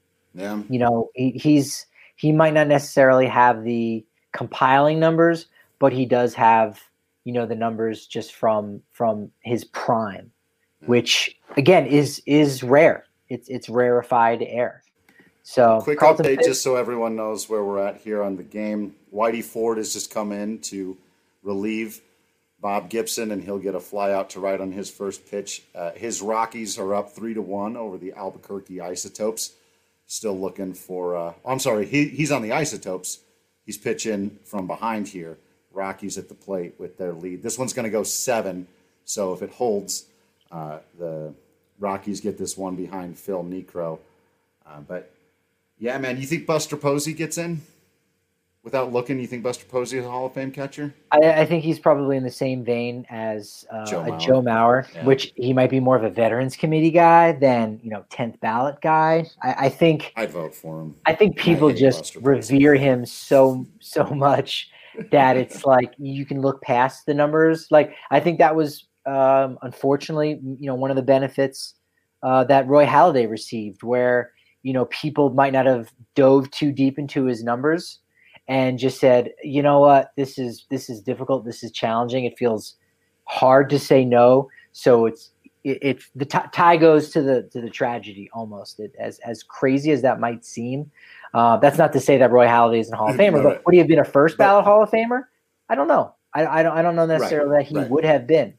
he might not necessarily have the compiling numbers, but he does have, the numbers just from his prime, which again is rare. It's rarefied air. So quick update, just so everyone knows where we're at here on the game. Whitey Ford has just come in to relieve Bob Gibson, and he'll get a fly out to right on his first pitch. His Rockies are up 3-1 over the Albuquerque Isotopes. Still looking for. He's on the Isotopes. He's pitching from behind here. Rockies at the plate with their lead. This one's going to go 7. So if it holds, the Rockies get this one behind Phil Niekro. But yeah, man, you think Buster Posey gets in without looking, you think Buster Posey is a Hall of Fame catcher? I think he's probably in the same vein as Joe Mauer, yeah. Which he might be more of a Veterans Committee guy than 10th ballot guy. I think I'd vote for him. I think people just revere him so much that it's like you can look past the numbers. Like I think that was unfortunately one of the benefits that Roy Halladay received, where people might not have dove too deep into his numbers and just said, you know what, this is difficult, this is challenging, it feels hard to say no. So it's the tie goes to the tragedy almost. As crazy as that might seem, that's not to say that Roy Halladay isn't a Hall of Famer, but would he have been a first ballot Hall of Famer? I don't know. I don't know necessarily that he would have been.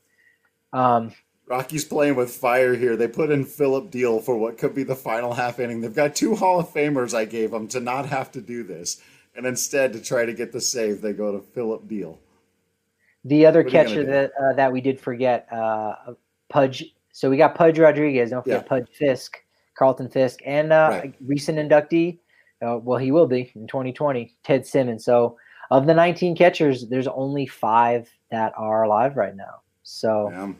Rocky's playing with fire here. They put in Philip Deal for what could be the final half inning. They've got 2 Hall of Famers I gave them to not have to do this. And instead, to try to get the save, they go to Philip Deal. The other catcher that we did forget, Pudge. So we got Pudge Rodriguez. Don't forget Pudge Fisk, Carlton Fisk, and a recent inductee. Well, he will be in 2020, Ted Simmons. So of the 19 catchers, there's only 5 that are alive right now. So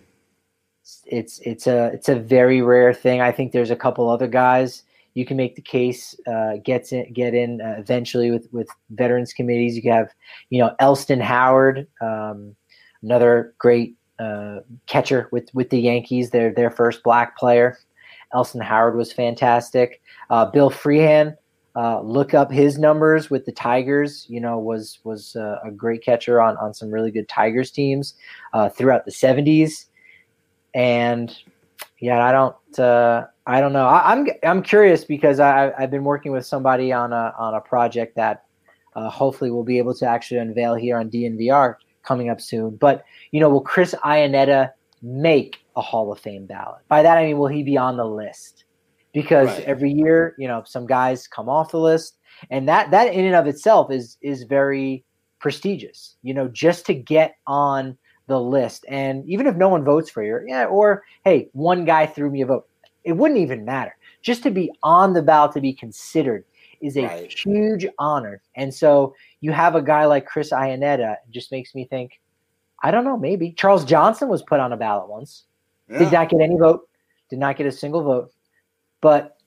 it's a very rare thing. I think there's a couple other guys you can make the case get in eventually with veterans committees. You have Elston Howard, another great catcher with the Yankees. Their first black player. Elston Howard was fantastic. Bill Freehan, look up his numbers with the Tigers. Was a great catcher on some really good Tigers teams throughout the 70s. And I don't know. I'm curious because I've been working with somebody on a project that hopefully we'll be able to actually unveil here on DNVR coming up soon. But will Chris Iannetta make a Hall of Fame ballot? By that I mean, will he be on the list? Because every year, some guys come off the list, and that in and of itself is very prestigious. Just to get on the list, and even if no one votes for you, or hey, one guy threw me a vote, it wouldn't even matter. Just to be on the ballot, to be considered, is a huge honor. And so you have a guy like Chris Iannetta, it just makes me think, I don't know, maybe Charles Johnson was put on a ballot once, did not get any vote, did not get a single vote. But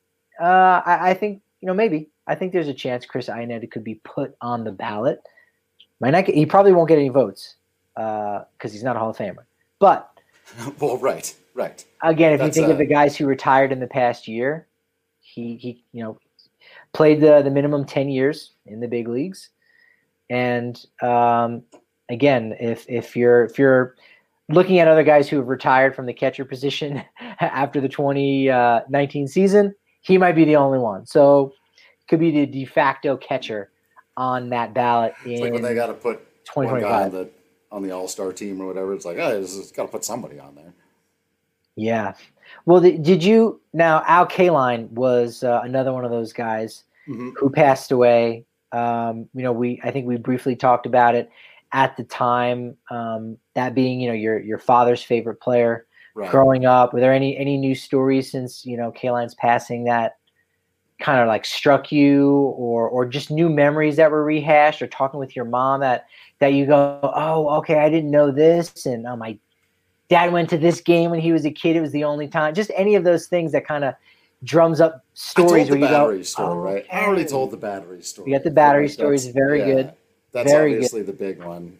I think maybe I think there's a chance Chris Iannetta could be put on the ballot. He probably won't get any votes because he's not a Hall of Famer. But well, right. Again, if you think of the guys who retired in the past year, he played the minimum 10 years in the big leagues, and again, if you're looking at other guys who have retired from the catcher position after the 2019 season, he might be the only one. So could be the de facto catcher on that ballot. It's like when they got to put 2025 one guy on the All-Star team or whatever. It's like, it's got to put somebody on there. Yeah. Well, did you now? Al Kaline was another one of those guys who passed away. I think we briefly talked about it at the time. That being, your father's favorite player growing up. Were there any news stories since Kaline's passing that kind of like struck you, or just new memories that were rehashed, or talking with your mom that you go, oh, okay, I didn't know this, and my dad went to this game when he was a kid. It was the only time. Just any of those things that kind of drums up stories where you go, story, I already told the battery story. You got the battery stories, very good. That's very obviously good. The big one.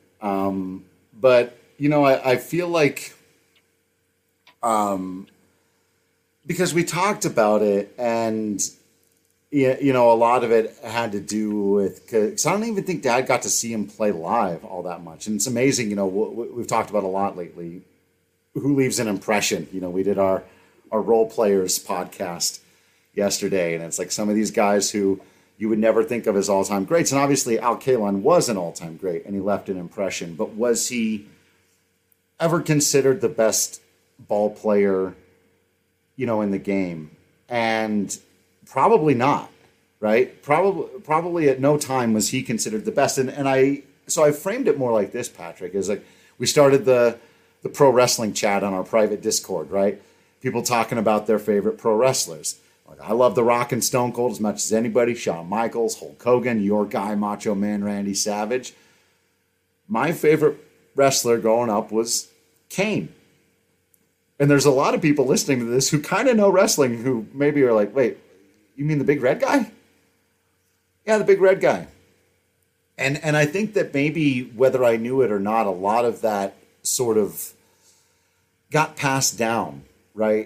But I feel like, because we talked about it, and a lot of it had to do with, because I don't even think Dad got to see him play live all that much, and it's amazing. We've talked about a lot lately. Who leaves an impression? We did our role players podcast yesterday, and it's like some of these guys who you would never think of as all-time greats. And obviously Al Kaline was an all-time great, and he left an impression. But was he ever considered the best ball player, in the game? And probably not, right? Probably at no time was he considered the best. And I framed it more like this, Patrick, is like we started the pro wrestling chat on our private Discord, right? People talking about their favorite pro wrestlers. Like, I love The Rock and Stone Cold as much as anybody. Shawn Michaels, Hulk Hogan, your guy, Macho Man Randy Savage. My favorite wrestler growing up was Kane. And there's a lot of people listening to this who kind of know wrestling who maybe are like, wait, you mean the big red guy? Yeah, the big red guy. And I think that maybe whether I knew it or not, a lot of that sort of got passed down, right?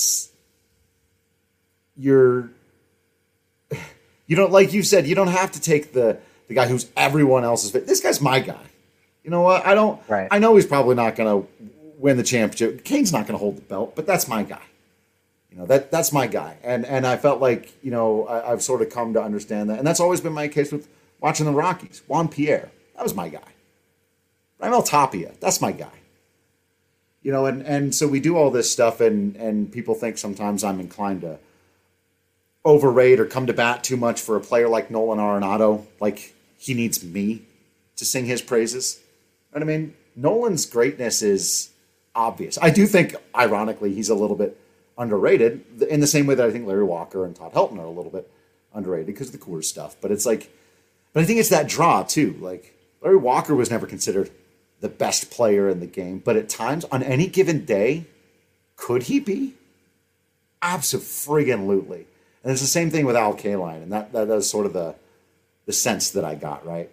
You don't, like you said, you don't have to take the guy who's everyone else's fit. This guy's my guy. You know what? I know he's probably not going to win the championship. Kane's not going to hold the belt, but that's my guy. You know, that's my guy. And I felt like, you know, I've sort of come to understand that. And that's always been my case with watching the Rockies. Juan Pierre, that was my guy. Raimel Tapia, that's my guy. You know, and so we do all this stuff, and people think sometimes I'm inclined to overrate or come to bat too much for a player like Nolan Arenado. Like, he needs me to sing his praises. And I mean, Nolan's greatness is obvious. I do think, ironically, he's a little bit underrated in the same way that I think Larry Walker and Todd Helton are a little bit underrated because of the Coors stuff. But it's like, but I think it's that draw too. Like, Larry Walker was never considered the best player in the game, but at times, on any given day, could he be? Absolutely. And it's the same thing with Al Kaline, and that is sort of the sense that I got, right?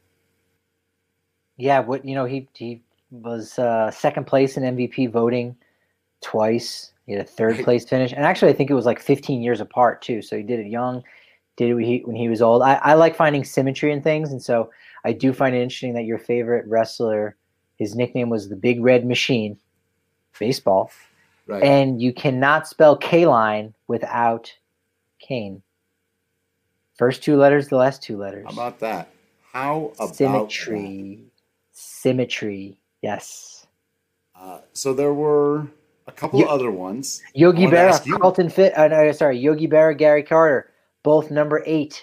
Yeah, he was second place in MVP voting twice. He had a third place finish, and actually I think it was like 15 years apart too. So he did it young, did it when he was old. I like finding symmetry in things, and so I do find it interesting that your favorite wrestler, his nickname was the Big Red Machine, baseball, right? And you cannot spell Kaline without Kane. First two letters, the last two letters. How about that? How about symmetry? That? Symmetry, yes. So there were a couple of other ones. Yogi Berra, Carlton Fit. Yogi Berra, Gary Carter, both number 8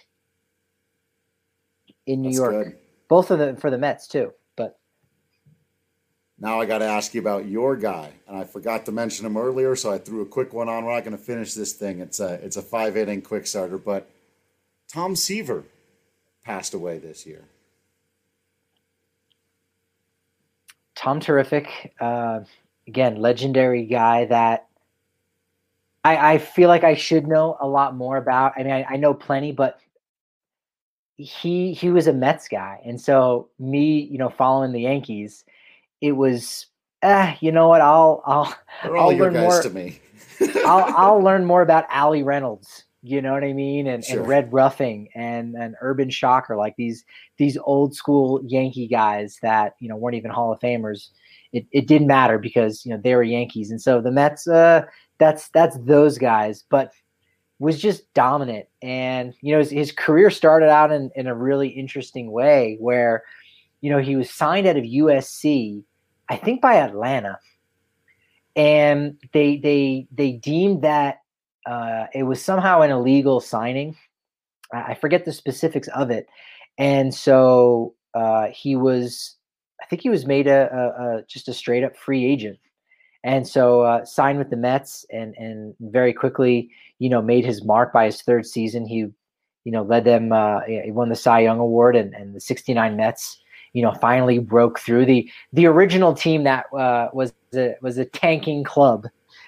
in New York. Good. Both of them for the Mets too. But now I got to ask you about your guy, and I forgot to mention him earlier, so I threw a quick one on. We're not going to finish this thing. It's a 5-inning quick starter, but Tom Seaver passed away this year. Tom, terrific. Again, legendary guy that I feel like I should know a lot more about. I mean, I know plenty, but he was a Mets guy. And so me, following the Yankees, it was, you know what? I'll your learn guys more to me. I'll learn more about Allie Reynolds. You know what I mean? Sure. And Red Ruffing and Urban Shocker, like these old school Yankee guys that, weren't even Hall of Famers. It didn't matter because, they were Yankees. And so the Mets, that's those guys, but was just dominant. And, his career started out in a really interesting way where, he was signed out of USC, I think by Atlanta. And they deemed that it was somehow an illegal signing. I forget the specifics of it. And so he was made just a straight up free agent. And so signed with the Mets and very quickly, made his mark by his third season. He, led them, he won the Cy Young Award and the 69 Mets, finally broke through the original team that was a tanking club,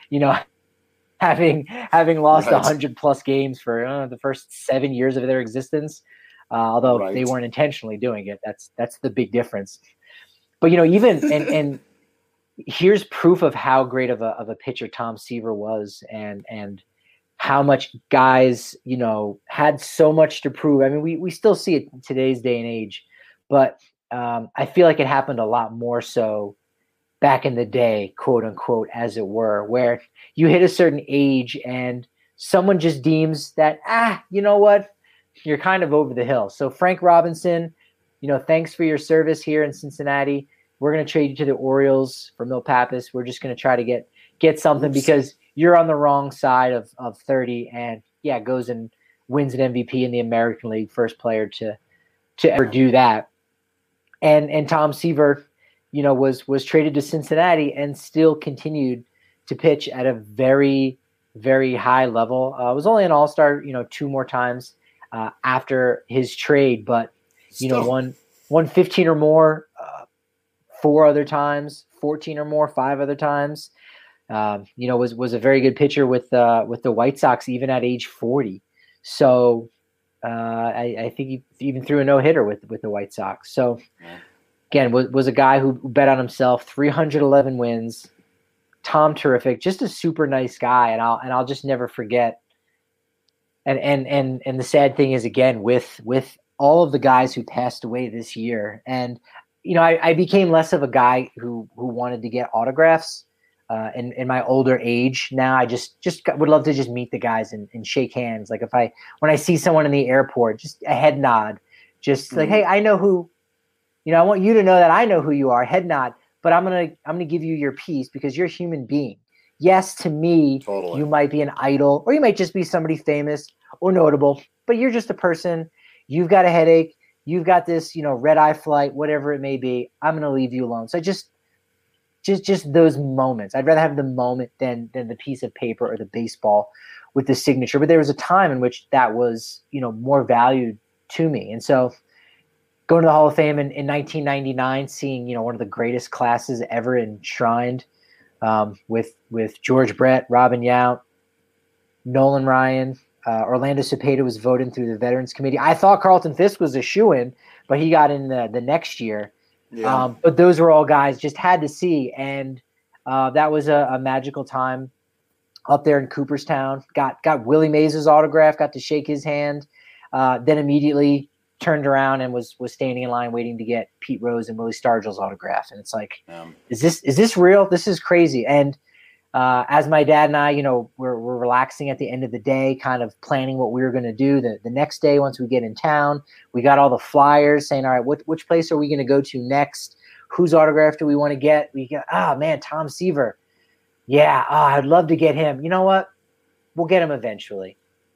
having lost 100 plus games for the first 7 years of their existence, although they weren't intentionally doing it. That's the big difference. But even and here's proof of how great of a pitcher Tom Seaver was, and how much guys had so much to prove. I mean, we still see it in today's day and age, but I feel like it happened a lot more so back in the day, quote unquote, as it were, where you hit a certain age and someone just deems that, you know what, you're kind of over the hill. So Frank Robinson, thanks for your service here in Cincinnati. We're going to trade you to the Orioles for Mil Pappas. We're just going to try to get something because you're on the wrong side of 30 and goes and wins an MVP in the American League, first player to ever do that. And Tom Seaver, was traded to Cincinnati and still continued to pitch at a very very high level. Was only an All-Star, 2 more times after his trade, but won 15 or more 4 other times, 14 or more 5 other times. Was a very good pitcher with the White Sox even at age 40. So I think he even threw a no-hitter with the White Sox. So again, was a guy who bet on himself. 311 wins. Tom Terrific, just a super nice guy, and I'll just never forget. And the sad thing is, again, with all of the guys who passed away this year, and I became less of a guy who wanted to get autographs. In my older age now, I just would love to just meet the guys and shake hands. Like when I see someone in the airport, just a head nod, just like, hey, I know who, I want you to know that I know who you are, head nod, but I'm going to give you your piece because you're a human being. Yes, to me, totally. You might be an idol, or you might just be somebody famous or notable, but you're just a person. You've got a headache. You've got this, red eye flight, whatever it may be. I'm going to leave you alone. So just those moments. I'd rather have the moment than the piece of paper or the baseball with the signature. But there was a time in which that was, more valued to me. And so going to the Hall of Fame in 1999, seeing, one of the greatest classes ever enshrined with George Brett, Robin Yount, Nolan Ryan, Orlando Cepeda was voted through the Veterans Committee. I thought Carlton Fisk was a shoo-in, but he got in the next year. Yeah. But those were all guys just had to see. And that was a magical time up there in Cooperstown. Got Willie Mays' autograph, got to shake his hand, then immediately turned around and was standing in line waiting to get Pete Rose and Willie Stargell's autograph. And it's like, is this real? This is crazy. And as my dad and I, we're relaxing at the end of the day, kind of planning what we were going to do the next day once we get in town. We got all the flyers saying, all right, which place are we going to go to next? Whose autograph do we want to get? We got, Tom Seaver. Yeah, I'd love to get him. You know what? We'll get him eventually.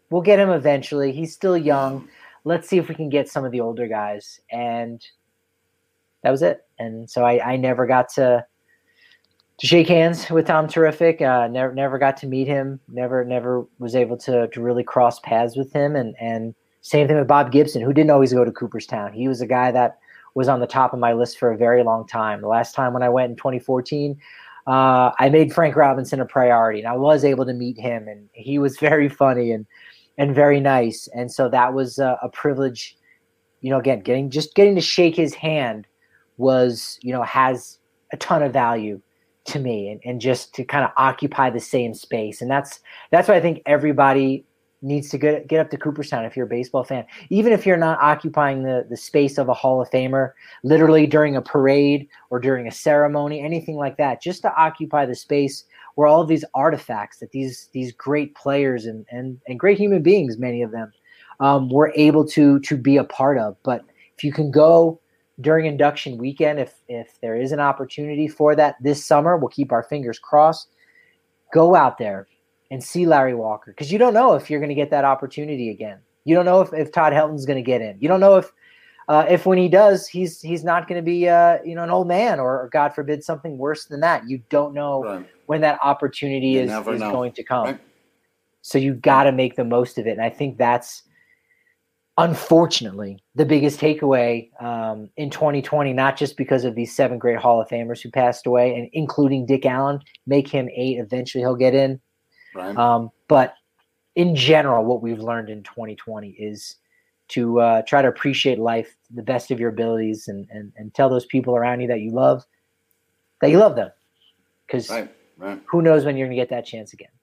He's still young. Let's see if we can get some of the older guys. And that was it. And so I never got to shake hands with Tom Terrific. Never got to meet him. Never was able to really cross paths with him. And same thing with Bob Gibson, who didn't always go to Cooperstown. He was a guy that was on the top of my list for a very long time. The last time when I went in 2014, I made Frank Robinson a priority, and I was able to meet him, and he was very funny and very nice. And so that was a privilege. Again, getting to shake his hand was, has a ton of value to me, and just to kind of occupy the same space. And that's why I think everybody needs to get up to Cooperstown if you're a baseball fan. Even if you're not occupying the space of a Hall of Famer, literally during a parade or during a ceremony, anything like that, just to occupy the space where all of these artifacts that these great players and great human beings, many of them, were able to be a part of. But if you can go during induction weekend, if there is an opportunity for that this summer, we'll keep our fingers crossed. Go out there and see Larry Walker, because you don't know if you're going to get that opportunity again. You don't know if Todd Helton's going to get in. You don't know if when he does, he's not going to be an old man or God forbid something worse than that. You don't know when that opportunity is going to come. Right. So you got to make the most of it. And I think that's, unfortunately, the biggest takeaway in 2020, not just because of these 7 great Hall of Famers who passed away, and including Dick Allen, make him 8. Eventually he'll get in. Right. But in general, what we've learned in 2020 is to try to appreciate life to the best of your abilities, and tell those people around you that you love them. Because who knows when you're going to get that chance again.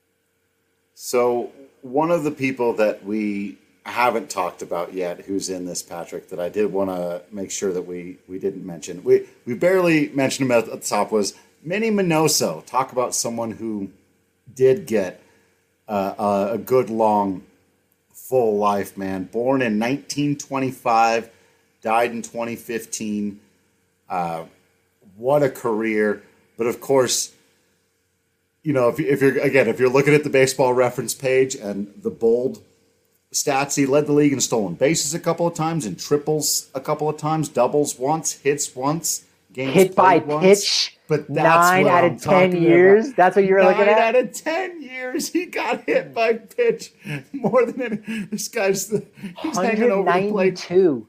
So one of the people that we haven't talked about yet who's in this, Patrick, that I did want to make sure that we didn't mention. We barely mentioned him at the top, was Minnie Minoso. Talk about someone who did get a good, long, full life, man. Born in 1925, died in 2015. What a career. But of course, if you're looking at the Baseball Reference page and the bold stats, he led the league in stolen bases a couple of times, in triples a couple of times, doubles once, hits once, games hit by played once, pitch. but that's 9 what out I'm of 10 talking years. about. That's what you were looking at. 9 out of 10 years, he got hit by pitch more than any. This guy's he's hanging over the plate.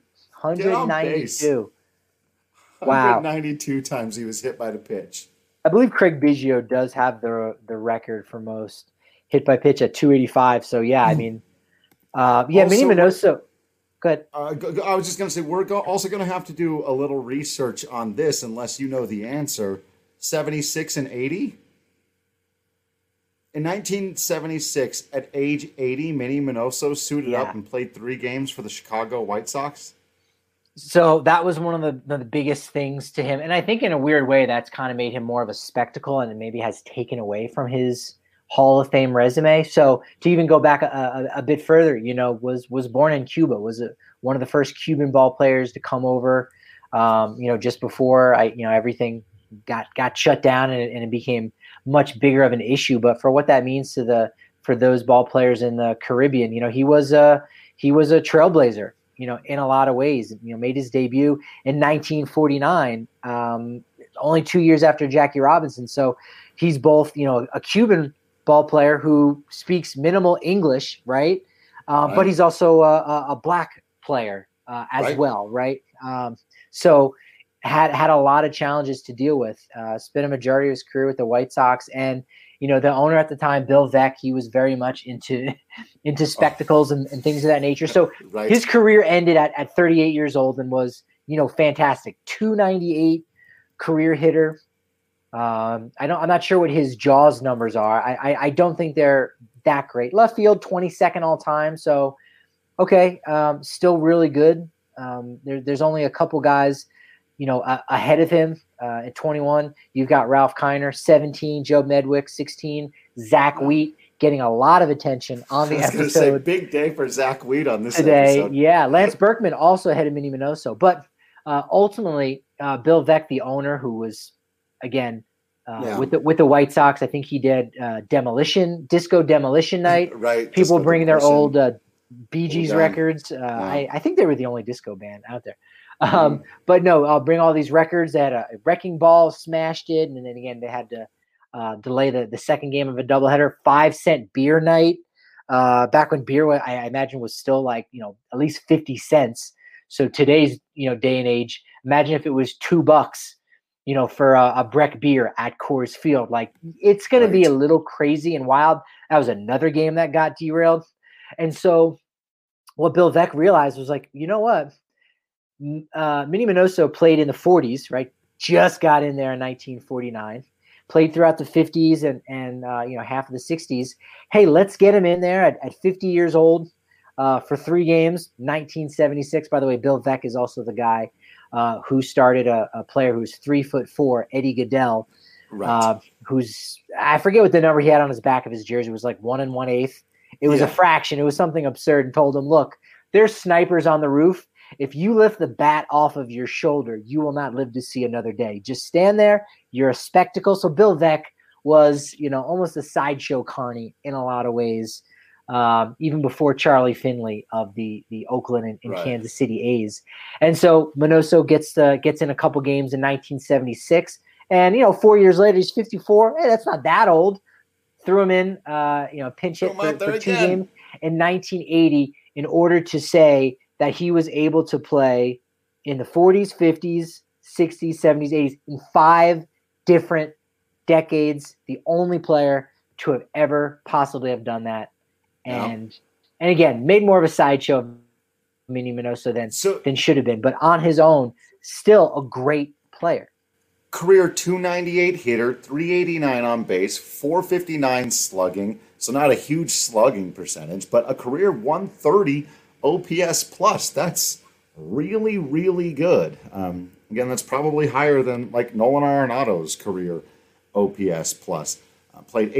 192. Wow. 192 times he was hit by the pitch. I believe Craig Biggio does have the record for most hit by pitch at 285. So yeah, I mean, Minnie Minoso. Good. I was just going to say we're also going to have to do a little research on this, unless you know the answer. 76 and 80. In 1976, at age 80, Minnie Minoso suited up and played 3 games for the Chicago White Sox. So that was one of the biggest things to him. And I think in a weird way, that's kind of made him more of a spectacle and maybe has taken away from his Hall of Fame resume. So to even go back a bit further, was born in Cuba, was one of the first Cuban ball players to come over, just before everything got shut down and it became much bigger of an issue. But for what that means for those ball players in the Caribbean, he was a trailblazer, in a lot of ways. Made his debut in 1949, only 2 years after Jackie Robinson. So he's both, a Cuban ball player who speaks minimal English, right? But he's also a black player as well, right? So had a lot of challenges to deal with. Spent a majority of his career with the White Sox, and the owner at the time, Bill Veeck, he was very much into spectacles and things of that nature. So his career ended at 38 years old and was fantastic. 298 career hitter. I'm not sure what his Jaws numbers are. I don't think they're that great. Left field, 22nd all time. So okay, still really good. There's only a couple guys ahead of him. At 21, you've got Ralph Kiner, 17, Joe Medwick, 16, Zach Wheat getting a lot of attention on the episode. Say, big day for Zach Wheat on this today. Episode. Yeah, Lance Berkman also ahead of Minnie Minoso. But ultimately, Bill Veeck, the owner, who was, again, with the White Sox, I think he did Disco Demolition Night. Right. People bringing their old Bee Gees records. I think they were the only disco band out there. But no, I'll bring all these records. They had a wrecking ball, smashed it, and then again they had to delay the second game of a doubleheader. 5-cent beer night, back when beer, I imagine, was still like at least 50 cents. So today's day and age, imagine if it was $2, for a Breck beer at Coors Field. Like it's going to be a little crazy and wild. That was another game that got derailed, and so what Bill Veeck realized was like, you know what? Minnie Minoso played in the 40s, right? Just got in there in 1949. Played throughout the 50s and half of the 60s. Hey, let's get him in there at 50 years old for 3 games. 1976. By the way, Bill Veeck is also the guy who started a player who's 3'4", Eddie Goodell, who's, I forget what the number he had on his back of his jersey. It was like 1 1/8. It was a fraction. It was something absurd, and told him, look, there's snipers on the roof. If you lift the bat off of your shoulder, you will not live to see another day. Just stand there. You're a spectacle. So Bill Veeck was, almost a sideshow carny in a lot of ways, even before Charlie Finley of the Oakland and Kansas City A's. And so Minoso gets in a couple games in 1976. And, 4 years later, he's 54. Hey, that's not that old. Threw him in, pinch hit for 2 games in 1980 in order to say that he was able to play in the 40s, 50s, 60s, 70s, 80s, in 5 different decades. The only player to have ever possibly have done that. And again, made more of a sideshow of Minnie Minoso than should have been. But on his own, still a great player. Career 298 hitter, 389 on base, 459 slugging. So not a huge slugging percentage, but a career 130 OPS plus. That's really, really good. Again, that's probably higher than like Nolan Arenado's career OPS plus. Played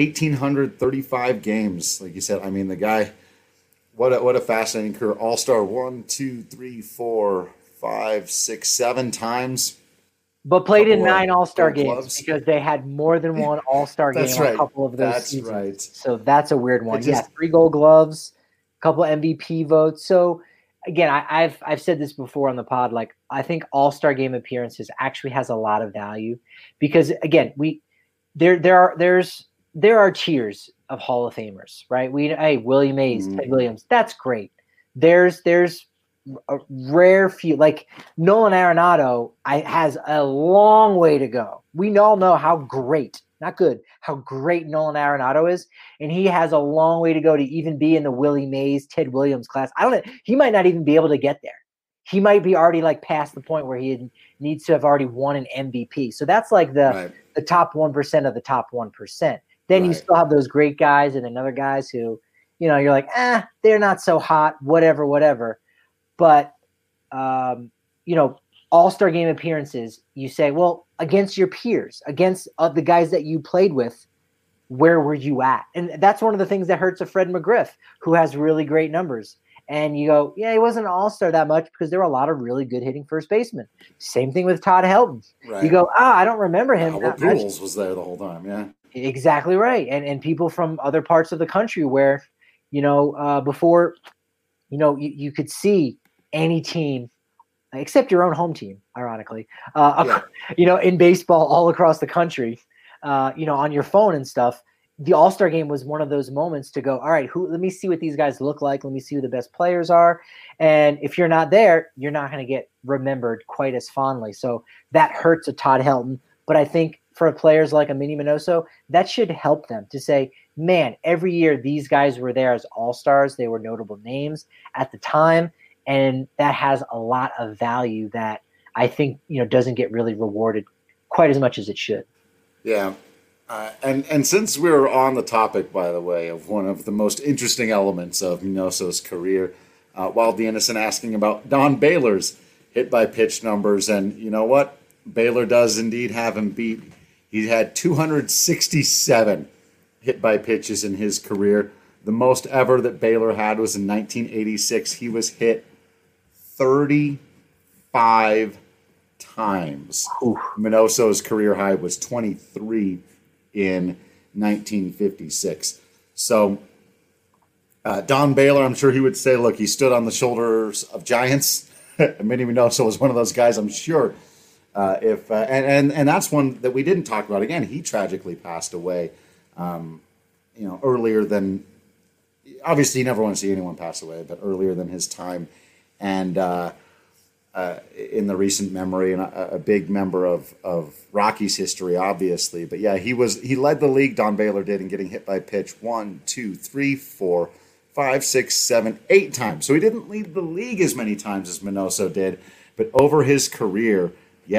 1,835 games, like you said. I mean, the guy, what a fascinating career. All-star 1, 2, 3, 4, 5, 6, 7 times. But played in 9 All-Star games because they had more than one All-Star game on a couple of those seasons. Right. So that's a weird one. 3 Gold Gloves, a couple MVP votes. So again, I've said this before on the pod. Like, I think All-Star game appearances actually has a lot of value because, again, there are tiers of Hall of Famers, right? Hey, Willie Mays, Ted Williams, that's great. There's a rare few, like Nolan Arenado has a long way to go. We all know how great, not good, how great Nolan Arenado is, and he has a long way to go to even be in the Willie Mays, Ted Williams class. He might not even be able to get there. He might be already like past the point where he needs to have already won an MVP. So that's like the top 1% of the top 1%. Then you still have those great guys and then other guys who, you're like, they're not so hot, whatever. But, All-Star game appearances, you say, well, against your peers, against the guys that you played with, where were you at? And that's one of the things that hurts a Fred McGriff, who has really great numbers. And you go, yeah, he wasn't an all-star that much because there were a lot of really good hitting first basemen. Same thing with Todd Helton. Right. You go, I don't remember him. Albert Pujols was there the whole time, yeah. Exactly right. And people from other parts of the country where, before, you could see any team, except your own home team, ironically, in baseball all across the country, on your phone and stuff. The All-Star game was one of those moments to go, all right, let me see what these guys look like. Let me see who the best players are. And if you're not there, you're not going to get remembered quite as fondly. So that hurts a Todd Helton. But I think for players like a Minnie Minoso, that should help them to say, man, every year these guys were there as all-stars. They were notable names at the time. And that has a lot of value that I think, doesn't get really rewarded quite as much as it should. Yeah. And since we're on the topic, by the way, of one of the most interesting elements of Minoso's career, Wild the Innocent asking about Don Baylor's hit-by-pitch numbers. And you know what? Baylor does indeed have him beat. He had 267 hit-by-pitches in his career. The most ever that Baylor had was in 1986. He was hit 35 times. Oof. Minoso's career high was 23 in 1956. So Don Baylor, I'm sure he would say, look, he stood on the shoulders of giants. Minnie Minoso was one of those guys, I'm sure. And that's one that we didn't talk about. Again, he tragically passed away, earlier than, obviously you never want to see anyone pass away, but earlier than his time. And in the recent memory, and a big member of Rockies history, obviously. But yeah, he led the league, Don Baylor did, in getting hit by pitch 1, 2, 3, 4, 5, 6, 7, 8 times. So he didn't lead the league as many times as Minoso did, but over his career,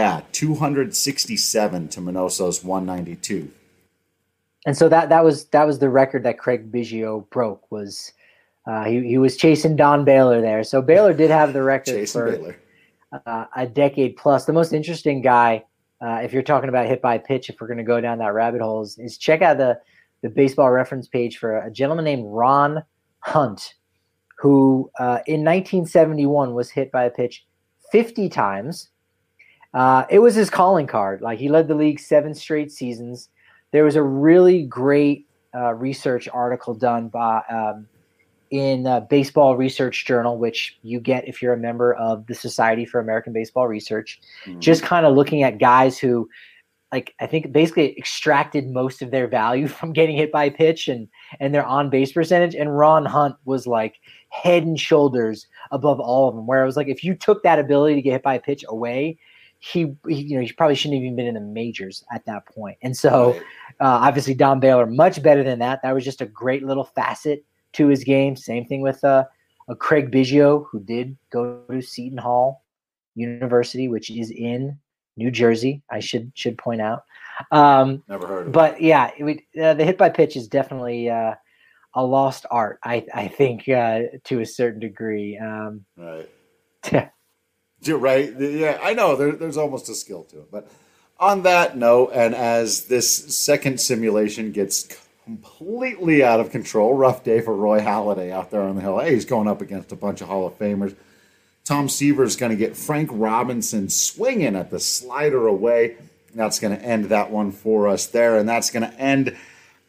267 to Minoso's 192. And so that was the record that Craig Biggio broke. Was he was chasing Don Baylor there? So Baylor did have the record for Baylor. A decade plus. The most interesting guy, if you're talking about hit by pitch, if we're going to go down that rabbit hole, is check out the baseball reference page for a gentleman named Ron Hunt, who in 1971 was hit by a pitch 50 times. It was his calling card. Like, he led the league 7 straight seasons. There was a really great research article done by in Baseball Research Journal, which you get if you're a member of the Society for American Baseball Research, just kind of looking at guys who, like, I think basically extracted most of their value from getting hit by a pitch and their on-base percentage. And Ron Hunt was like head and shoulders above all of them, where it was like, if you took that ability to get hit by a pitch away, he probably shouldn't have even been in the majors at that point. And so obviously Don Baylor, much better than that. That was just a great little facet to his game. Same thing with a Craig Biggio, who did go to Seton Hall University, which is in New Jersey, I should point out. Never heard of it. But yeah, the hit by pitch is definitely a lost art, I think, to a certain degree. Right. Yeah. You're right. Yeah, I know there's almost a skill to it. But on that note, and as this second simulation gets completely out of control, rough day for Roy Halladay out there on the hill. Hey, he's going up against a bunch of Hall of Famers. Tom Seaver's going to get Frank Robinson swinging at the slider away. That's going to end that one for us there, and that's going to end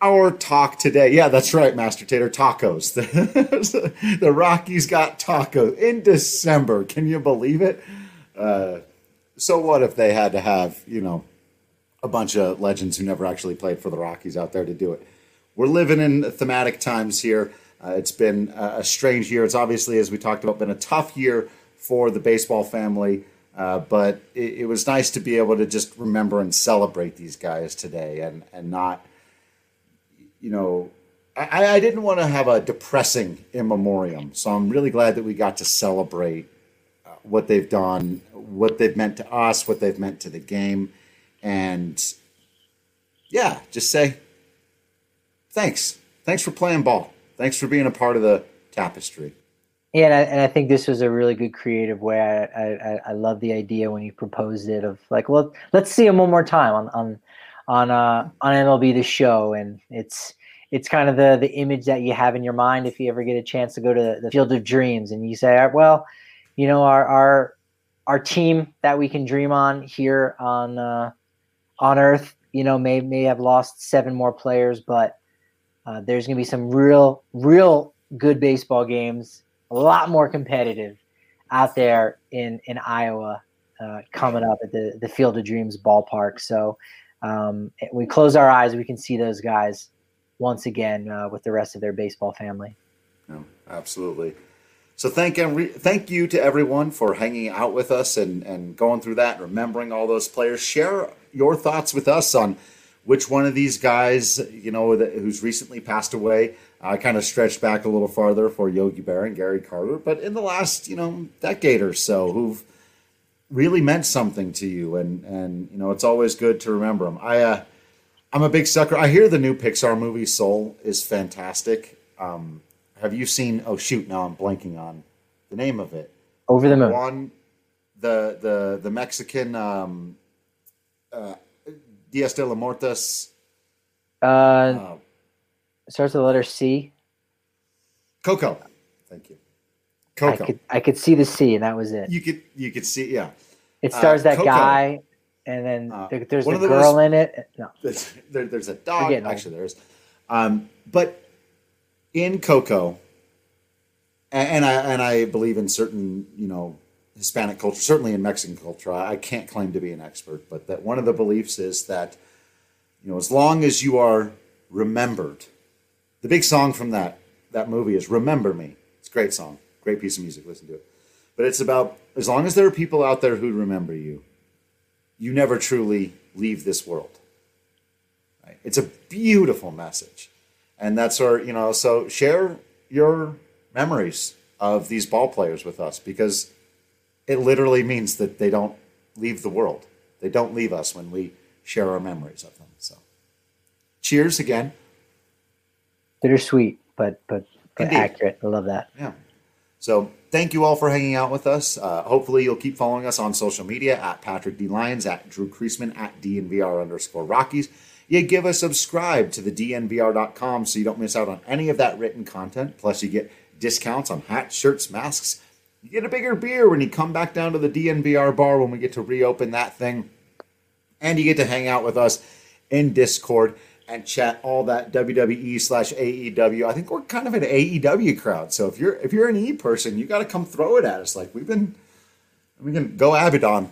our talk today. Yeah, that's right, Master Tater. Tacos. The Rockies got tacos in December. Can you believe it? So what if they had to have, a bunch of legends who never actually played for the Rockies out there to do it? We're living in thematic times here. It's been a strange year. It's obviously, as we talked about, been a tough year for the baseball family. But it was nice to be able to just remember and celebrate these guys today and not, I didn't want to have a depressing in memoriam. So I'm really glad that we got to celebrate what they've done, what they've meant to us, what they've meant to the game. And yeah, just say thanks. Thanks for playing ball. Thanks for being a part of the tapestry. Yeah, and I think this was a really good creative way. I love the idea when you proposed it of like, well, let's see him one more time on MLB The Show, and it's kind of the image that you have in your mind if you ever get a chance to go to the Field of Dreams, and you say, well, our team that we can dream on here on Earth, may have lost 7 more players, but there's going to be some real good baseball games. A lot more competitive out there in Iowa coming up at the Field of Dreams ballpark. So we close our eyes, we can see those guys once again with the rest of their baseball family. No, absolutely. So thank you to everyone for hanging out with us and going through that, remembering all those players. Share your thoughts with us on which one of these guys, who's recently passed away. I kind of stretched back a little farther for Yogi Berra and Gary Carter, but in the last, decade or so, who've really meant something to you, and it's always good to remember them. I'm a big sucker. I hear the new Pixar movie Soul is fantastic. Have you seen? Oh shoot! Now I'm blanking on the name of it. Over the Moon. One, the Mexican Dias de los Muertos. Starts with the letter C. Coco. Thank you. Coco. I could see the C, and that was it. You could see, yeah. It stars that Coco. guy, and then there's a girl in it. No, there's a dog. Actually, there's. But in Coco, and I believe in certain Hispanic culture, certainly in Mexican culture. I can't claim to be an expert, but that one of the beliefs is that as long as you are remembered. The big song from that movie is Remember Me. It's a great song. Great piece of music. Listen to it. But it's about, as long as there are people out there who remember you, you never truly leave this world. Right? It's a beautiful message. And that's our, so share your memories of these ball players with us, because it literally means that they don't leave the world. They don't leave us when we share our memories of them. So cheers again. Bittersweet, but accurate. I love that. Yeah. So thank you all for hanging out with us. Hopefully you'll keep following us on social media at Patrick D. Lyons, at Drew Creasman, at DNVR_Rockies. You give a subscribe to the DNVR.com so you don't miss out on any of that written content. Plus you get discounts on hats, shirts, masks. You get a bigger beer when you come back down to the DNVR bar when we get to reopen that thing. And you get to hang out with us in Discord and chat all that WWE/AEW. I think we're kind of an AEW crowd. So if you're an E person, you got to come throw it at us. Like we can go Abaddon.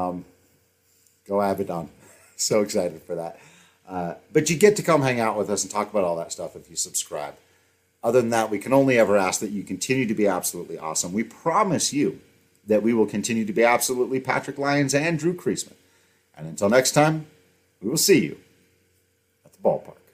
Go Abaddon. So excited for that. But you get to come hang out with us and talk about all that stuff if you subscribe. Other than that, we can only ever ask that you continue to be absolutely awesome. We promise you that we will continue to be absolutely Patrick Lyons and Drew Creasman. And until next time, we will see you at the ballpark.